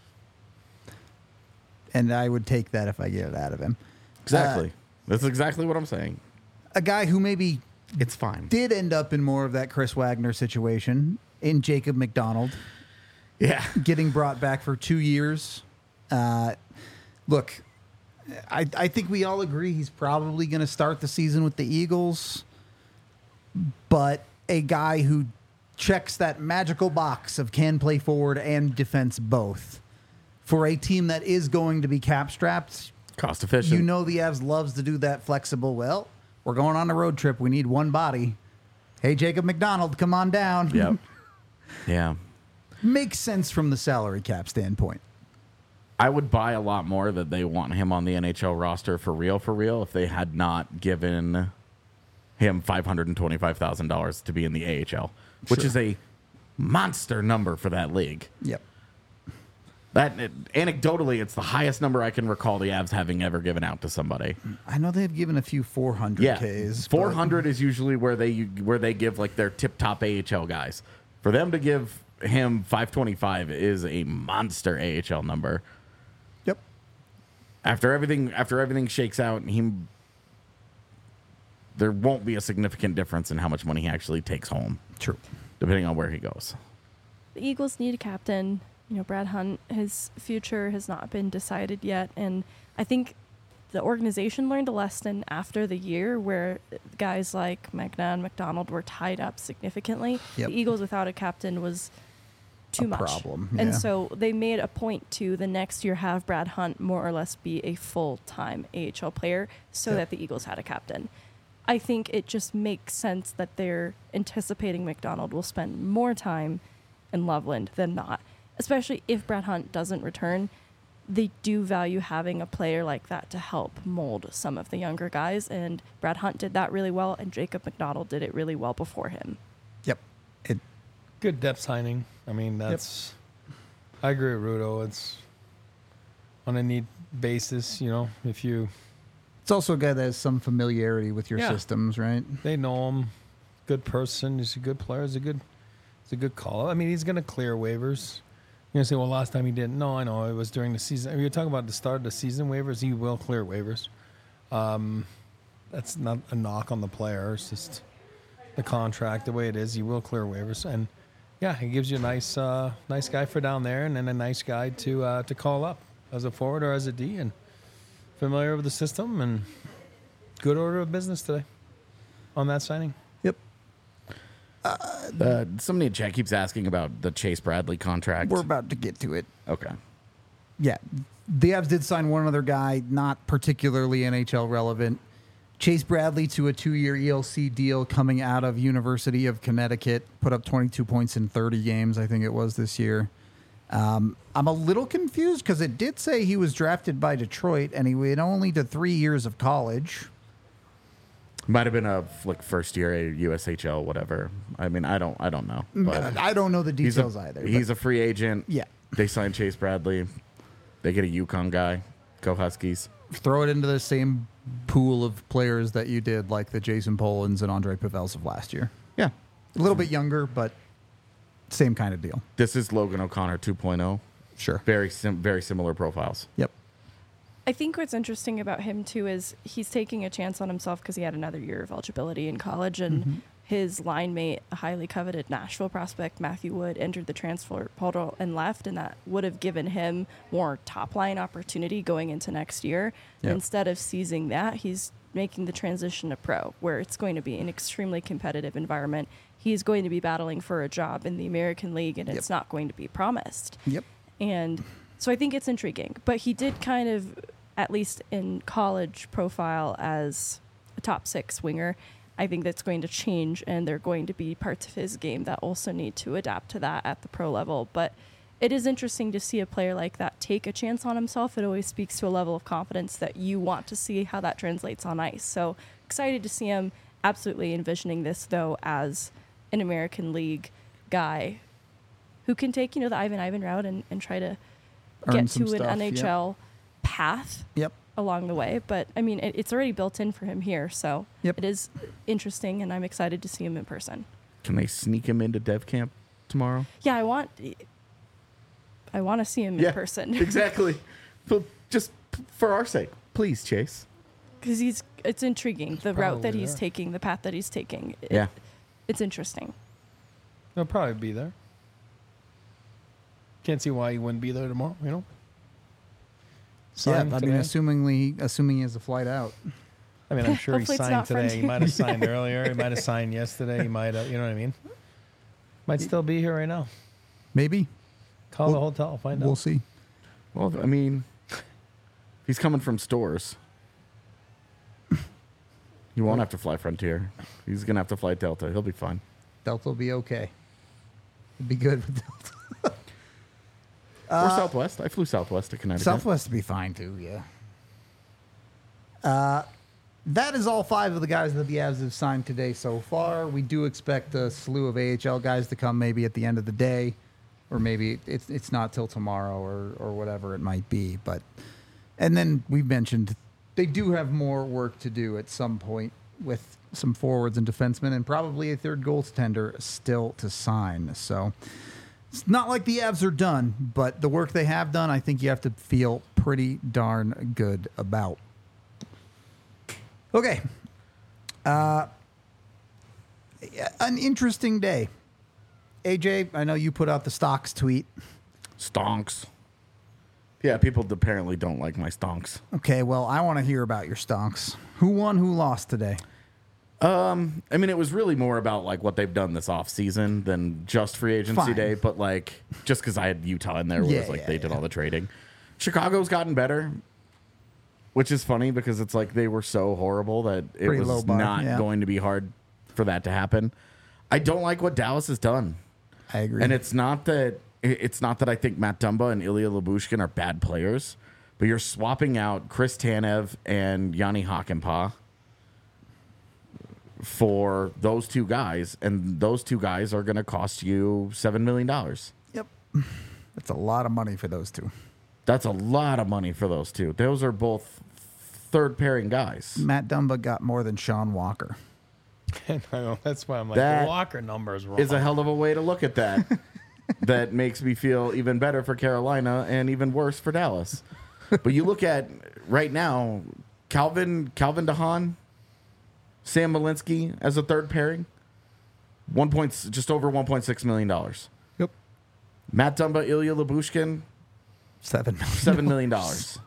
And I would take that if I get it out of him. Exactly. Uh, That's exactly what I'm saying. a guy who maybe It's fine. did end up in more of that Chris Wagner situation in Jacob McDonald, Yeah. getting brought back for two years. Uh, look, I, I think we all agree he's probably going to start the season with the Eagles, but a guy who checks that magical box of can play forward and defense both for a team that is going to be cap strapped. Cost efficient. You know the Avs loves to do that flexible. Well, we're going on a road trip. We need one body. Hey, Jacob McDonald, come on down. Yep. Yeah. Makes sense from the salary cap standpoint. I would buy a lot more that they want him on the N H L roster for real, for real, if they had not given him five hundred twenty-five thousand dollars to be in the A H L, which Sure. is a monster number for that league. Yep. That anecdotally, it's the highest number I can recall the Avs having ever given out to somebody. I know they've given a few four hundred Yeah, Ks. four hundred is usually where they where they give like their tip top A H L guys. For them to give him five twenty-five is a monster A H L number. Yep. After everything, after everything shakes out, he there won't be a significant difference in how much money he actually takes home, True. depending on where he goes. The Eagles need a captain. You know, Brad Hunt, his future has not been decided yet. And I think the organization learned a lesson after the year where guys like Magna and McDonald were tied up significantly. Yep. The Eagles without a captain was too A much. problem, And yeah. so they made a point to the next year have Brad Hunt more or less be a full-time A H L player so Yep. that the Eagles had a captain. I think it just makes sense that they're anticipating McDonald will spend more time in Loveland than not, especially if Brad Hunt doesn't return. they do value having a player like that to help mold some of the younger guys. And Brad Hunt did that really well, and Jacob McDonald did it really well before him. Yep. It, Good depth signing. I mean, that's. I agree with Rudo. It's on a need basis, you know, if you. it's also a guy that has some familiarity with your Yeah. systems, right? They know him. Good person. He's a good player. He's a good, he's a good call. I mean, he's going to clear waivers. You're going to say, well, last time he didn't. No, I know. It was during the season. If you're talking about the start of the season waivers, he will clear waivers. Um, that's not a knock on the player. It's just the contract, the way it is. He will clear waivers. And, yeah, he gives you a nice uh, nice guy for down there and then a nice guy to uh, to call up as a forward or as a D and familiar with the system and good order of business today on that signing. Yep. Uh, somebody in chat keeps asking about the Chase Bradley contract. We're about to get to it. Okay. Yeah. The Avs did sign one other guy, not particularly N H L relevant. Chase Bradley to a two-year E L C deal coming out of University of Connecticut. Put up twenty-two points in thirty games, I think it was this year. Um, I'm a little confused because it did say he was drafted by Detroit and he went only to three years of college. Might have been a like first year U S H L, whatever. I mean, I don't, I don't know. But I don't know the he's details a, either. He's but a free agent. yeah. They signed Chase Bradley. They get a Yukon guy. Go Huskies. Throw it into the same pool of players that you did, like the Jason Polans and Andre Pavels of last year. Yeah. A little bit younger, but same kind of deal. This is Logan O'Connor two point oh. Sure. Very sim- very similar profiles. Yep. I think what's interesting about him, too, is he's taking a chance on himself because he had another year of eligibility in college. And Mm-hmm. his line mate, a highly coveted Nashville prospect, Matthew Wood, entered the transfer portal and left. And that would have given him more top-line opportunity going into next year. Yep. Instead of seizing that, he's making the transition to pro, where it's going to be an extremely competitive environment. He's going to be battling for a job in the American League, and Yep. it's not going to be promised. Yep. And so I think it's intriguing. But he did kind of, at least in college, profile as a top six winger. I think that's going to change, and there are going to be parts of his game that also need to adapt to that at the pro level. But it is interesting to see a player like that take a chance on himself. It always speaks to a level of confidence that you want to see how that translates on ice. So excited to see him. Absolutely envisioning this, though, as an American League guy who can take, you know, the Ivan Ivan route and, and try to Earn get some to an stuff, N H L path Yep. along the way. But, I mean, it, it's already built in for him here. So Yep. it is interesting, and I'm excited to see him in person. Can they sneak him into dev camp tomorrow? Yeah, I want I want to see him in person. Exactly. But just p- for our sake, please, Chase. Because he's it's intriguing, the route that Probably he's there. taking, the path that he's taking. It- Yeah. It's interesting. He'll probably be there. Can't see why he wouldn't be there tomorrow, you know? Signed yeah, I mean, today. assumingly, assuming he has a flight out. I mean, I'm sure he Hopefully it's signed not today. He Frontier. might have signed earlier. He might have signed yesterday. He might have, you know what I mean? Might still be here right now. Maybe. Call the We'll- hotel, find We'll out. see. Well, I mean, he's coming from stores. He won't have to fly Frontier. He's gonna have to fly Delta. He'll be fine. Delta will be okay. It'll be good with Delta. or Southwest. I flew Southwest to Connecticut. Southwest will be fine too, yeah. Uh, that is all five of the guys that the Avs have signed today so far. We do expect a slew of A H L guys to come maybe at the end of the day, or maybe it's it's not till tomorrow or or whatever it might be. But and then we mentioned they do have more work to do at some point with some forwards and defensemen, and probably a third goaltender still to sign. So. It's not like the Avs are done, but the work they have done, I think you have to feel pretty darn good about. Okay. Uh, an interesting day. A J, I know you put out the stocks tweet. Stonks. Yeah, people apparently don't like my stonks. Okay, well, I want to hear about your stonks. Who won, who lost today? Um, I mean, it was really more about like what they've done this off season than just free agency Fine. day. But like, just because I had Utah in there, where Yeah, it's like yeah, they did yeah. all the trading. Chicago's gotten better, which is funny because it's like they were so horrible that it Pretty low was bar, not yeah. going to be hard for that to happen. I don't like what Dallas has done, I agree. and it's not that i- it's not that I think Matt Dumba and Ilya Lyubushkin are bad players, but you're swapping out Chris Tanev and Yanni Hakanpää for those two guys, and those two guys are going to cost you seven million dollars. Yep. That's a lot of money for those two. That's a lot of money for those two. Those are both third pairing guys. Matt Dumba got more than Sean Walker. I know, that's why I'm like, That the Walker number is wrong. Is a hell of a way to look at that. That makes me feel even better for Carolina and even worse for Dallas. But you look at right now, Calvin Calvin DeHaan, Sam Malinsky as a third pairing, one point just over one point six million dollars. Yep. Matt Dumba, Ilya Lyubushkin, Seven million. seven million dollars.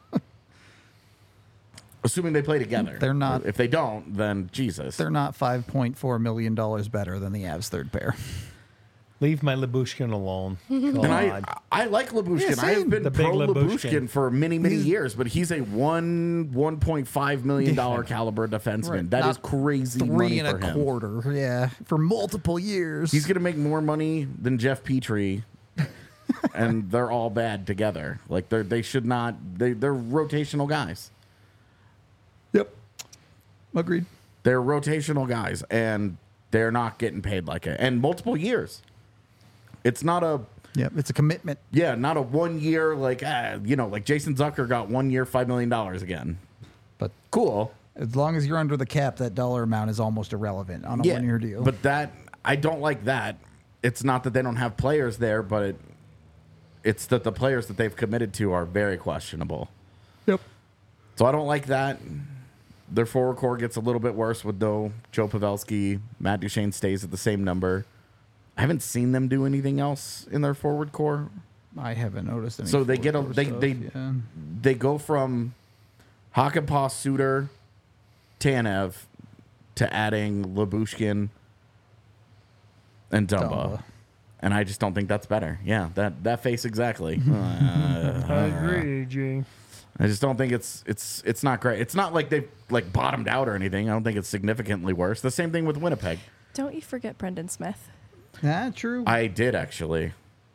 Assuming they play together. They're not- If they don't, then Jesus. They're not five point four million dollars better than the Avs third pair. Leave my Lyubushkin alone. And I, God. I like Lyubushkin. Yeah, I have same. been The big pro Lyubushkin. Lyubushkin for many, many He's- years, but he's a one one point five million dollar caliber defenseman. Right. That Not is crazy Three money and for a him. quarter, yeah, for multiple years. He's gonna make more money than Jeff Petrie, and they're all bad together. Like they're they should not. They they're rotational guys. Yep. Agreed. They're rotational guys, and they're not getting paid like it. And multiple years. It's not a Yep. It's a commitment. yeah, not a one year like ah, you know like Jason Zucker got one year five million dollars again. But Cool. as long as you're under the cap, that dollar amount is almost irrelevant on a one-year deal. But that I don't like that. It's not that they don't have players there, but it, it's that the players that they've committed to are very questionable. yep. So I don't like that. Their forward core gets a little bit worse with though Joe Pavelski, Matt Duchene stays at the same number. I haven't seen them do anything else in their forward core. I haven't noticed any. So they get a forward they stuff, they yeah. they go from Hakanpää, Suter, Tanev to adding Lyubushkin and Dumba. Dumba. And I just don't think that's better. Yeah, that that face exactly. Uh, I agree, G. I just don't think it's it's it's not great. It's not like they've like bottomed out or anything. I don't think it's significantly worse. The same thing with Winnipeg. Don't you forget Brendan Smith. Ah, true. I did actually.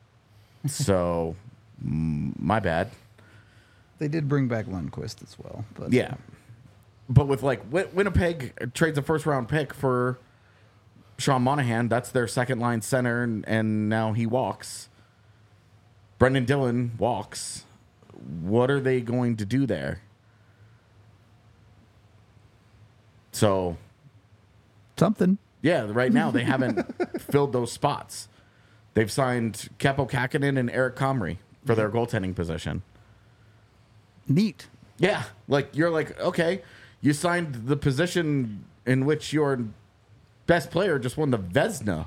So, mm, my bad. They did bring back Lundqvist as well. But Yeah. But with like Win- Winnipeg trades a first round pick for Sean Monahan. That's their second line center, and, and now he walks. Brendan Dillon walks. What are they going to do there? So, something. yeah, right now they haven't filled those spots. They've signed Keppo Kakinen and Eric Comrie for their goaltending position. Neat. Yeah, like you're like, okay, you signed the position in which your best player just won the Vezina.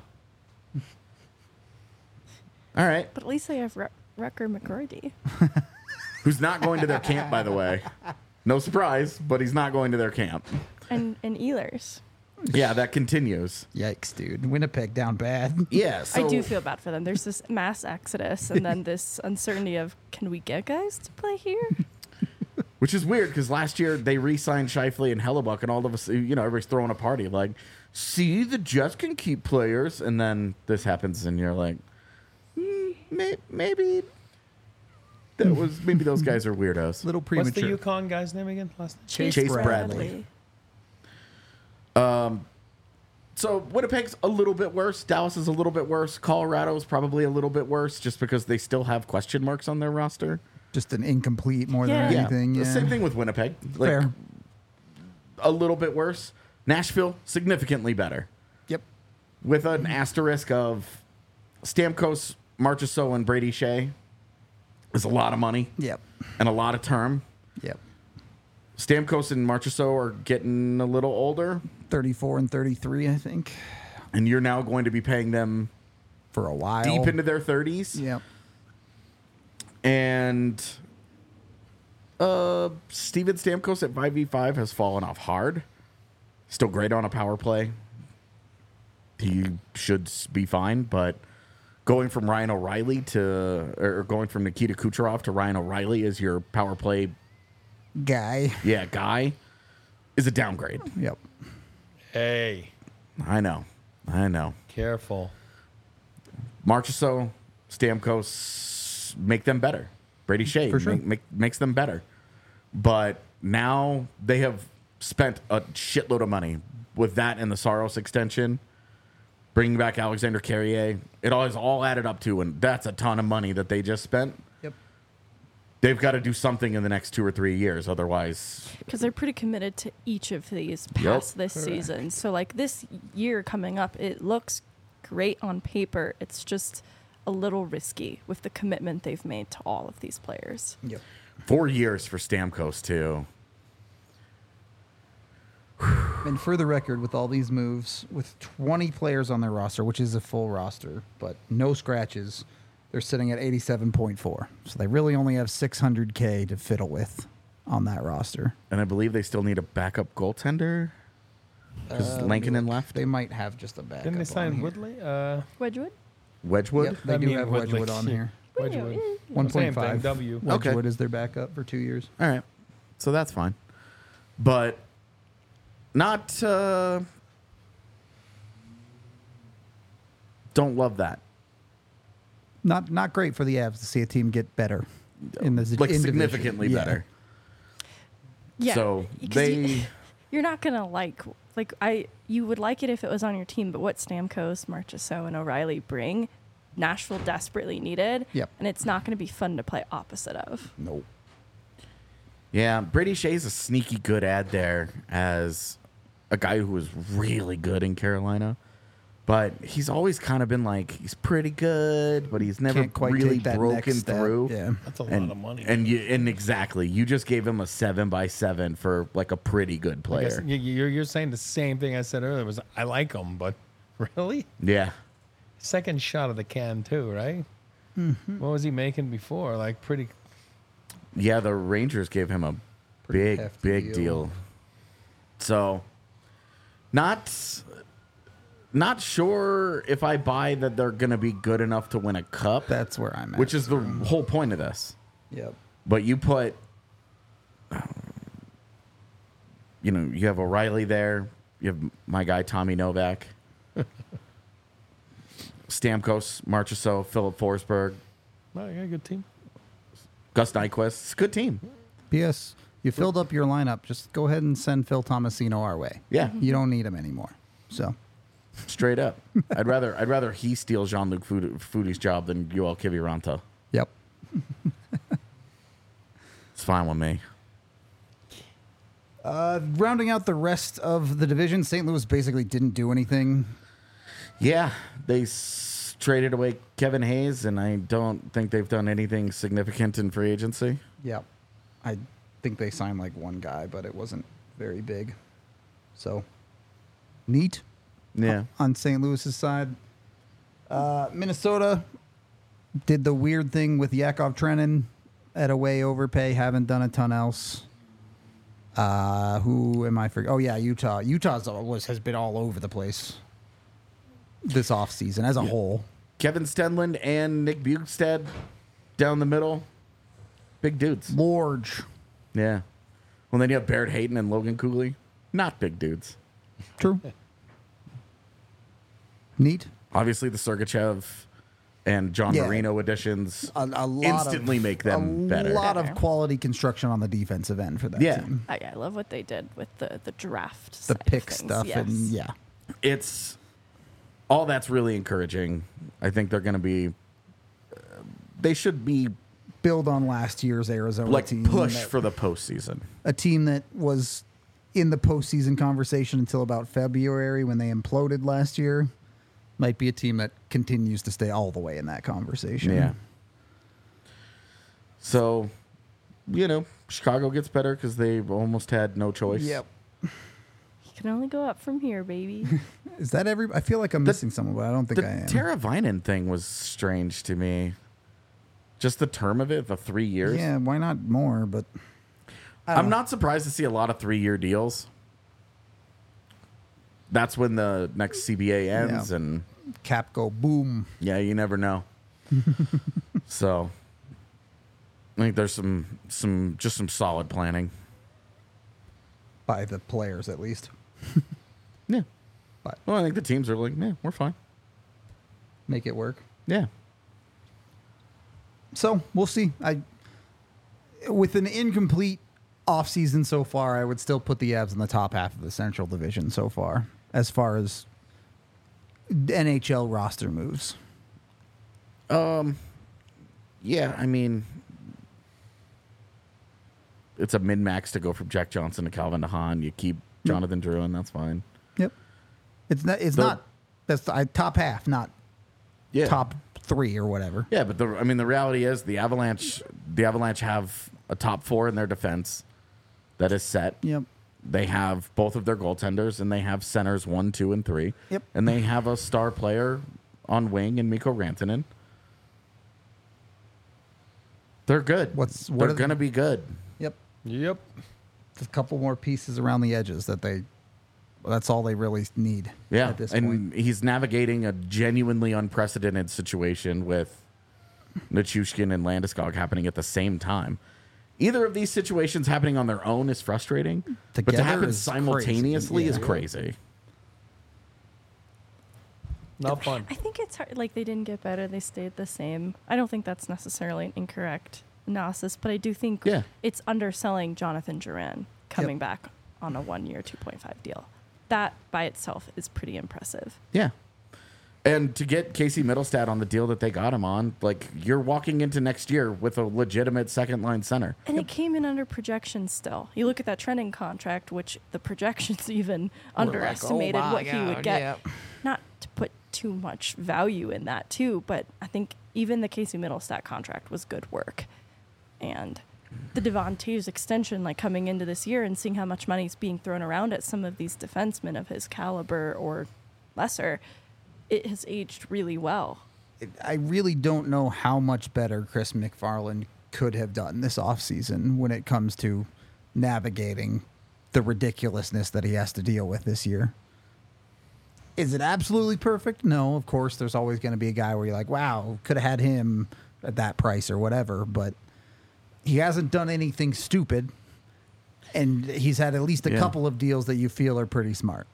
All right, But at least they have Ru- Rucker McGroarty. who's not going to their camp, by the way? No surprise, but he's not going to their camp. and, and Ehlers. Yeah, that continues. Yikes, dude. Winnipeg down bad. Yeah, so I do feel bad for them. There's this mass exodus and then this uncertainty of, can we get guys to play here? which is weird because last year they re-signed Scheifele and Hellebuck, and all of us, you know, everybody's throwing a party like, see, the Jets can keep players, and then this happens, and you're like, mm, may- maybe that was maybe those guys are weirdos. Little What's premature. the Yukon guy's name again? Last name? Chase Chase Bradley. Bradley. So Winnipeg's a little bit worse. Dallas is a little bit worse. Colorado's probably a little bit worse just because they still have question marks on their roster. Just an incomplete more Yeah. than Yeah, anything. the Yeah. same thing with Winnipeg. Like, Fair. a little bit worse. Nashville, significantly better. Yep. With an asterisk of Stamkos, Marchessault, and Brady Shea is a lot of money Yep. and a lot of term. Yep. Stamkos and Marchessault are getting a little older, thirty-four and thirty-three, I think, and you're now going to be paying them for a while. deep into their thirties. Yep. And uh, Steven Stamkos at five v five has fallen off hard. Still great on a power play. He should s- be fine, but going from Ryan O'Reilly to, or going from Nikita Kucherov to Ryan O'Reilly as your power play, Guy. yeah, guy, is a downgrade. Yep. Hey, I know. I know. careful. Marchessault, Stamkos make them better. Brady Shea For sure. make, make, makes them better. But now they have spent a shitload of money with that and the Saros extension, bringing back Alexander Carrier. It all is all added up to, and that's a ton of money that they just spent. Yep. They've got to do something in the next two or three years. Otherwise, Because they're pretty committed to each of these past this season. So, like, this year coming up, it looks great on paper. It's just a little risky with the commitment they've made to all of these players. Yep. four years for Stamkos, too. And for the record, with all these moves, with twenty players on their roster, which is a full roster, but no scratches, they're sitting at eighty-seven point four. So they really only have six hundred K to fiddle with on that roster. And I believe they still need a backup goaltender. Because Uh, Lankinen left. They might have just a backup. Didn't they on sign here. Woodley? Uh, Wedgwood? Wedgwood? Yep, they I do mean have Woodley. Wedgwood on here. Wedgwood. one Same point thing, five. W. Okay. Wedgwood is their backup for two years. All right. So that's fine. But not. Uh, don't love that. Not not great for the Avs to see a team get better in this Like in division. significantly Yeah. better. Yeah. So 'cause they. You, you're not going to like, like, I, you would like it if it was on your team, but what Stamkos, Marchessault, and O'Reilly bring, Nashville desperately needed. Yep. And it's not going to be fun to play opposite of. Nope. Yeah, Brady Shea's a sneaky good ad there as a guy who was really good in Carolina. But he's always kind of been like, he's pretty good, but he's never Can't quite really take that broken next step. through. Yeah. That's a and, lot of money. And you and exactly, you just gave him a seven by seven for like a pretty good I guess player. you- you're, you're saying the same thing I said earlier. Was I like him, but really, Yeah. second shot of the can too, right? Mm-hmm. What was he making before? Like pretty. Yeah, the Rangers gave him a Pretty big, hefty big deal. deal. So, not, not sure if I buy that they're going to be good enough to win a cup, That's where I'm at. which is the whole point of this. Yep. But you put, you know, you have O'Reilly there. You have my guy Tommy Novak, Stamkos, Marchessault, Philip Forsberg, Well, you got a good team. Gus Nyquist. It's a good team. P S. You filled up your lineup. Just go ahead and send Phil Tomasino our way. Yeah. You don't need him anymore. So Straight up, I'd rather I'd rather he steal Jean-Luc Foudy's job than Yoel Kiviranta. yep. It's fine with me. Uh, rounding out the rest of the division, Saint Louis basically didn't do anything. Yeah, they s- traded away Kevin Hayes, and I don't think they've done anything significant in free agency. Yep. I think they signed like one guy, but it wasn't very big. So neat. Yeah, On Saint Louis's side. Uh, Minnesota did the weird thing with Yakov Trenin at away overpay. Haven't done a ton else. Uh, who am I forgetting? Oh yeah, Utah. Utah's all- was has been all over the place this offseason as a whole. Kevin Stenlund and Nick Bugstad down the middle, big dudes. Large. Yeah. Well, then you have Barrett Hayton and Logan Cooley, not big dudes. True. Neat. Obviously, the Sergachev and John Yeah. Marino additions A, a lot instantly of, make them a better. lot of Better. quality construction on the defensive end for that Yeah. team. I, I love what they did with the, the draft. The side of pick things, stuff yes. and yeah. It's all that's really encouraging. I think they're going to be. Uh, they should be Build on last year's Arizona like team. push that- for the postseason. a team that was in the postseason conversation until about February when they imploded last year. Might be a team that continues to stay all the way in that conversation. Yeah. So, you know, Chicago gets better because they've almost had no choice. Yep. You can only go up from here, baby. Is that every? I feel like I'm The- missing someone, but I don't think The I am. Tara Vinen thing was strange to me. Just the term of it, the three years. Yeah, why not more? But I I'm don't- not surprised to see a lot of three year deals. That's when the next C B A ends, Yeah. and Cap go boom. yeah, you never know. So, I think there's some some just some solid planning. By the players, at least. Yeah. But Well, I think the teams are like, yeah, we're fine. make it work. Yeah. So we'll see. I with an incomplete offseason so far, I would still put the Avs in the top half of the Central Division so far, as far as N H L roster moves. Um, yeah, I mean, it's a min max to go from Jack Johnson to Calvin DeHaan. You keep Jonathan Drouin, that's fine. Yep. It's not. It's The- not. That's the, I, top half, not Yeah, top three or whatever. Yeah, but the I mean, the reality is the Avalanche. The Avalanche have a top four in their defense that is set. Yep. They have both of their goaltenders, and they have centers one, two, and three. Yep. And they have a star player on wing in Mikko Rantanen. They're good. What's- what They're are the- going to be good. Yep. Yep. Just a couple more pieces around the edges that they. That's all they really need. Yeah, At this and point. he's navigating a genuinely unprecedented situation with Nichushkin and Landeskog happening at the same time. Either of these situations happening on their own is frustrating, but Together to happen is simultaneously crazy. is Yeah. crazy. Not fun. I think it's hard. Like they didn't get better; they stayed the same. I don't think that's necessarily an incorrect analysis, but I do think Yeah. it's underselling Jonathan Duran coming back on a one-year, two point five deal. That by itself is pretty impressive. Yeah. And to get Casey Middlestad on the deal that they got him on, like you're walking into next year with a legitimate second line center. And it came in under projections still. You look at that trending contract, which the projections even underestimated oh my what he would God, get. yeah. Not to put too much value in that too, but I think even the Casey Middlestat contract was good work. And the Devon Toews extension, like coming into this year and seeing how much money is being thrown around at some of these defensemen of his caliber or lesser, it has aged really well. I really don't know how much better Chris McFarland could have done this offseason when it comes to navigating the ridiculousness that he has to deal with this year. Is it absolutely perfect? No, of course, there's always going to be a guy where you're like, wow, could have had him at that price or whatever, but he hasn't done anything stupid, and he's had at least a Yeah. couple of deals that you feel are pretty smart.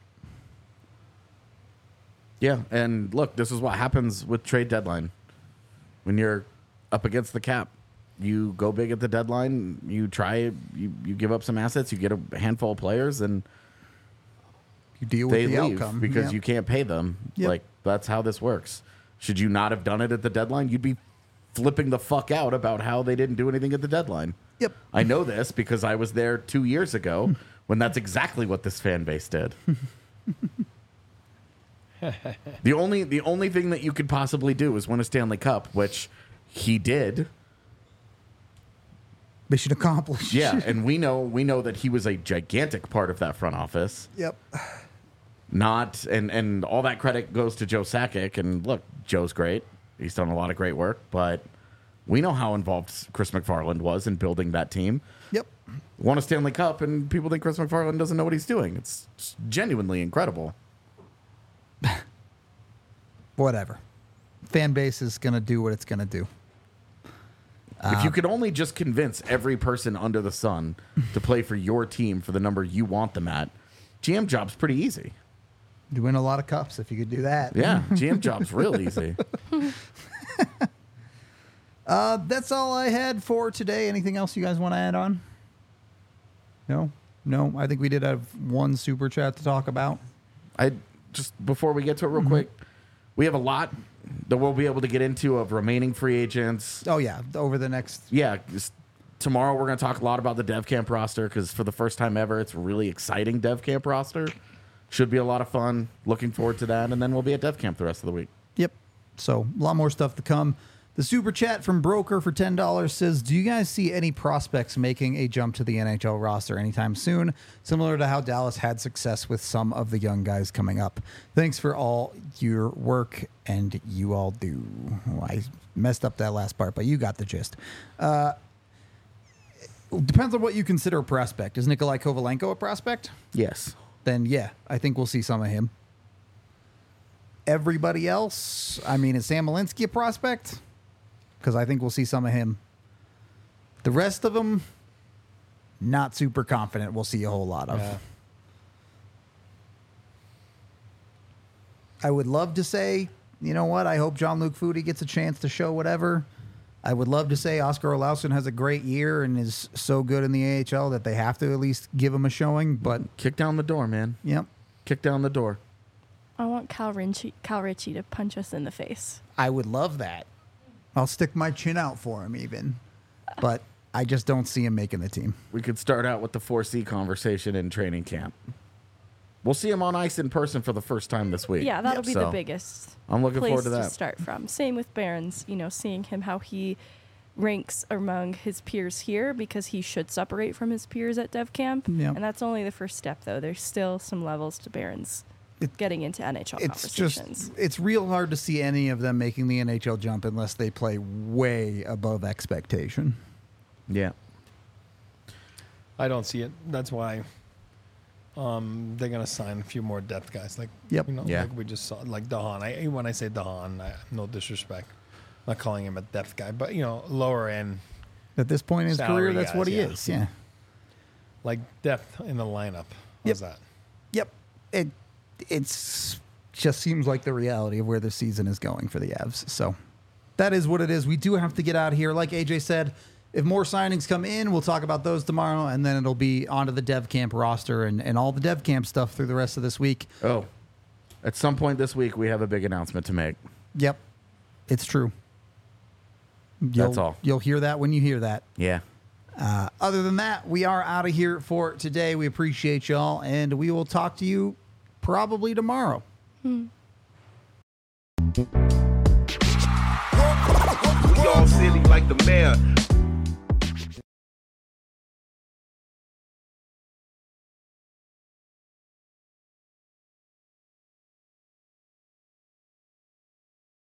Yeah, and look, this is what happens with trade deadline. When you're up against the cap, you go big at the deadline, you try, you, you give up some assets, you get a handful of players, and You deal they with the leave outcome. because Yeah. you can't pay them. Yep. Like, that's how this works. Should you not have done it at the deadline, you'd be flipping the fuck out about how they didn't do anything at the deadline. Yep. I know this because I was there two years ago when that's exactly what this fan base did. the only the only thing that you could possibly do is win a Stanley Cup, which he did. Mission accomplished. Yeah, and we know we know that he was a gigantic part of that front office. Yep. Not and and all that credit goes to Joe Sakic. And look, Joe's great. He's done a lot of great work, but we know how involved Chris McFarland was in building that team. Yep. Won a Stanley Cup, and people think Chris McFarland doesn't know what he's doing. It's it's genuinely incredible. Whatever. Fan base is going to do what it's going to do. If you could only just convince every person under the sun to play for your team for the number you want them at, G M job's pretty easy. You win a lot of cups if you could do that. Yeah, G M job's real easy. Uh, that's all I had for today. Anything else you guys want to add on? No? No? I think we did have one super chat to talk about. I just before we get to it real quick, we have a lot that we'll be able to get into of remaining free agents. Oh, yeah. Over the next. Yeah, just tomorrow we're going to talk a lot about the Dev Camp roster because for the first time ever, it's a really exciting Dev Camp roster. Should be a lot of fun. Looking forward to that, and then we'll be at Dev Camp the rest of the week. Yep. So, a lot more stuff to come. The super chat from Broker for ten dollars says, do you guys see any prospects making a jump to the N H L roster anytime soon, similar to how Dallas had success with some of the young guys coming up? Thanks for all your work, and you all do. Well, I messed up that last part, but you got the gist. Uh, depends on what you consider a prospect. Is Nikolai Kovalenko a prospect? Yes. Then, yeah, I think we'll see some of him. Everybody else, I mean, is Sam Malinsky a prospect? Because I think we'll see some of him. The rest of them, not super confident we'll see a whole lot of. Yeah. I would love to say, you know what, I hope Jean-Luc Foudy gets a chance to show whatever. I would love to say Oscar Olausen has a great year and is so good in the A H L that they have to at least give him a showing. But Kick down the door, man. yep, Kick down the door. I want Cal Ritchie, Cal Ritchie to punch us in the face. I would love that. I'll stick my chin out for him even. But I just don't see him making the team. We could start out with the four C conversation in training camp. We'll see him on ice in person for the first time this week. Yeah, that'll Yep. be So, the biggest I'm looking place forward to to that. start from. Same with Barons, you know, seeing him how he ranks among his peers here because he should separate from his peers at Dev Camp. Yep. And that's only the first step, though. There's still some levels to Barons It- getting into N H L It's just, conversations. it's real hard to see any of them making the N H L jump unless they play way above expectation. Yeah. I don't see it. That's why um, they're gonna sign a few more depth guys. Like Yep. you know, Yeah. like we just saw, like Dahan. I when I say Dahan, I, no disrespect, I'm not calling him a depth guy, but you know, lower end, At this point in his Salary career, that's guys, what he yeah. is. Yeah. like depth in the lineup. Yep. How's that? Yep. It it's just seems like the reality of where the season is going for the Avs. So that is what it is. We do have to get out of here. Like A J said, if more signings come in, we'll talk about those tomorrow, and then it'll be onto the Dev Camp roster and, and all the Dev Camp stuff through the rest of this week. Oh, at some point this week, we have a big announcement to make. Yep. It's true. You'll, That's all. You'll hear that when you hear that. Yeah. Uh, other than that, we are out of here for today. We appreciate y'all, and we will talk to you probably tomorrow. We all silly like the mayor.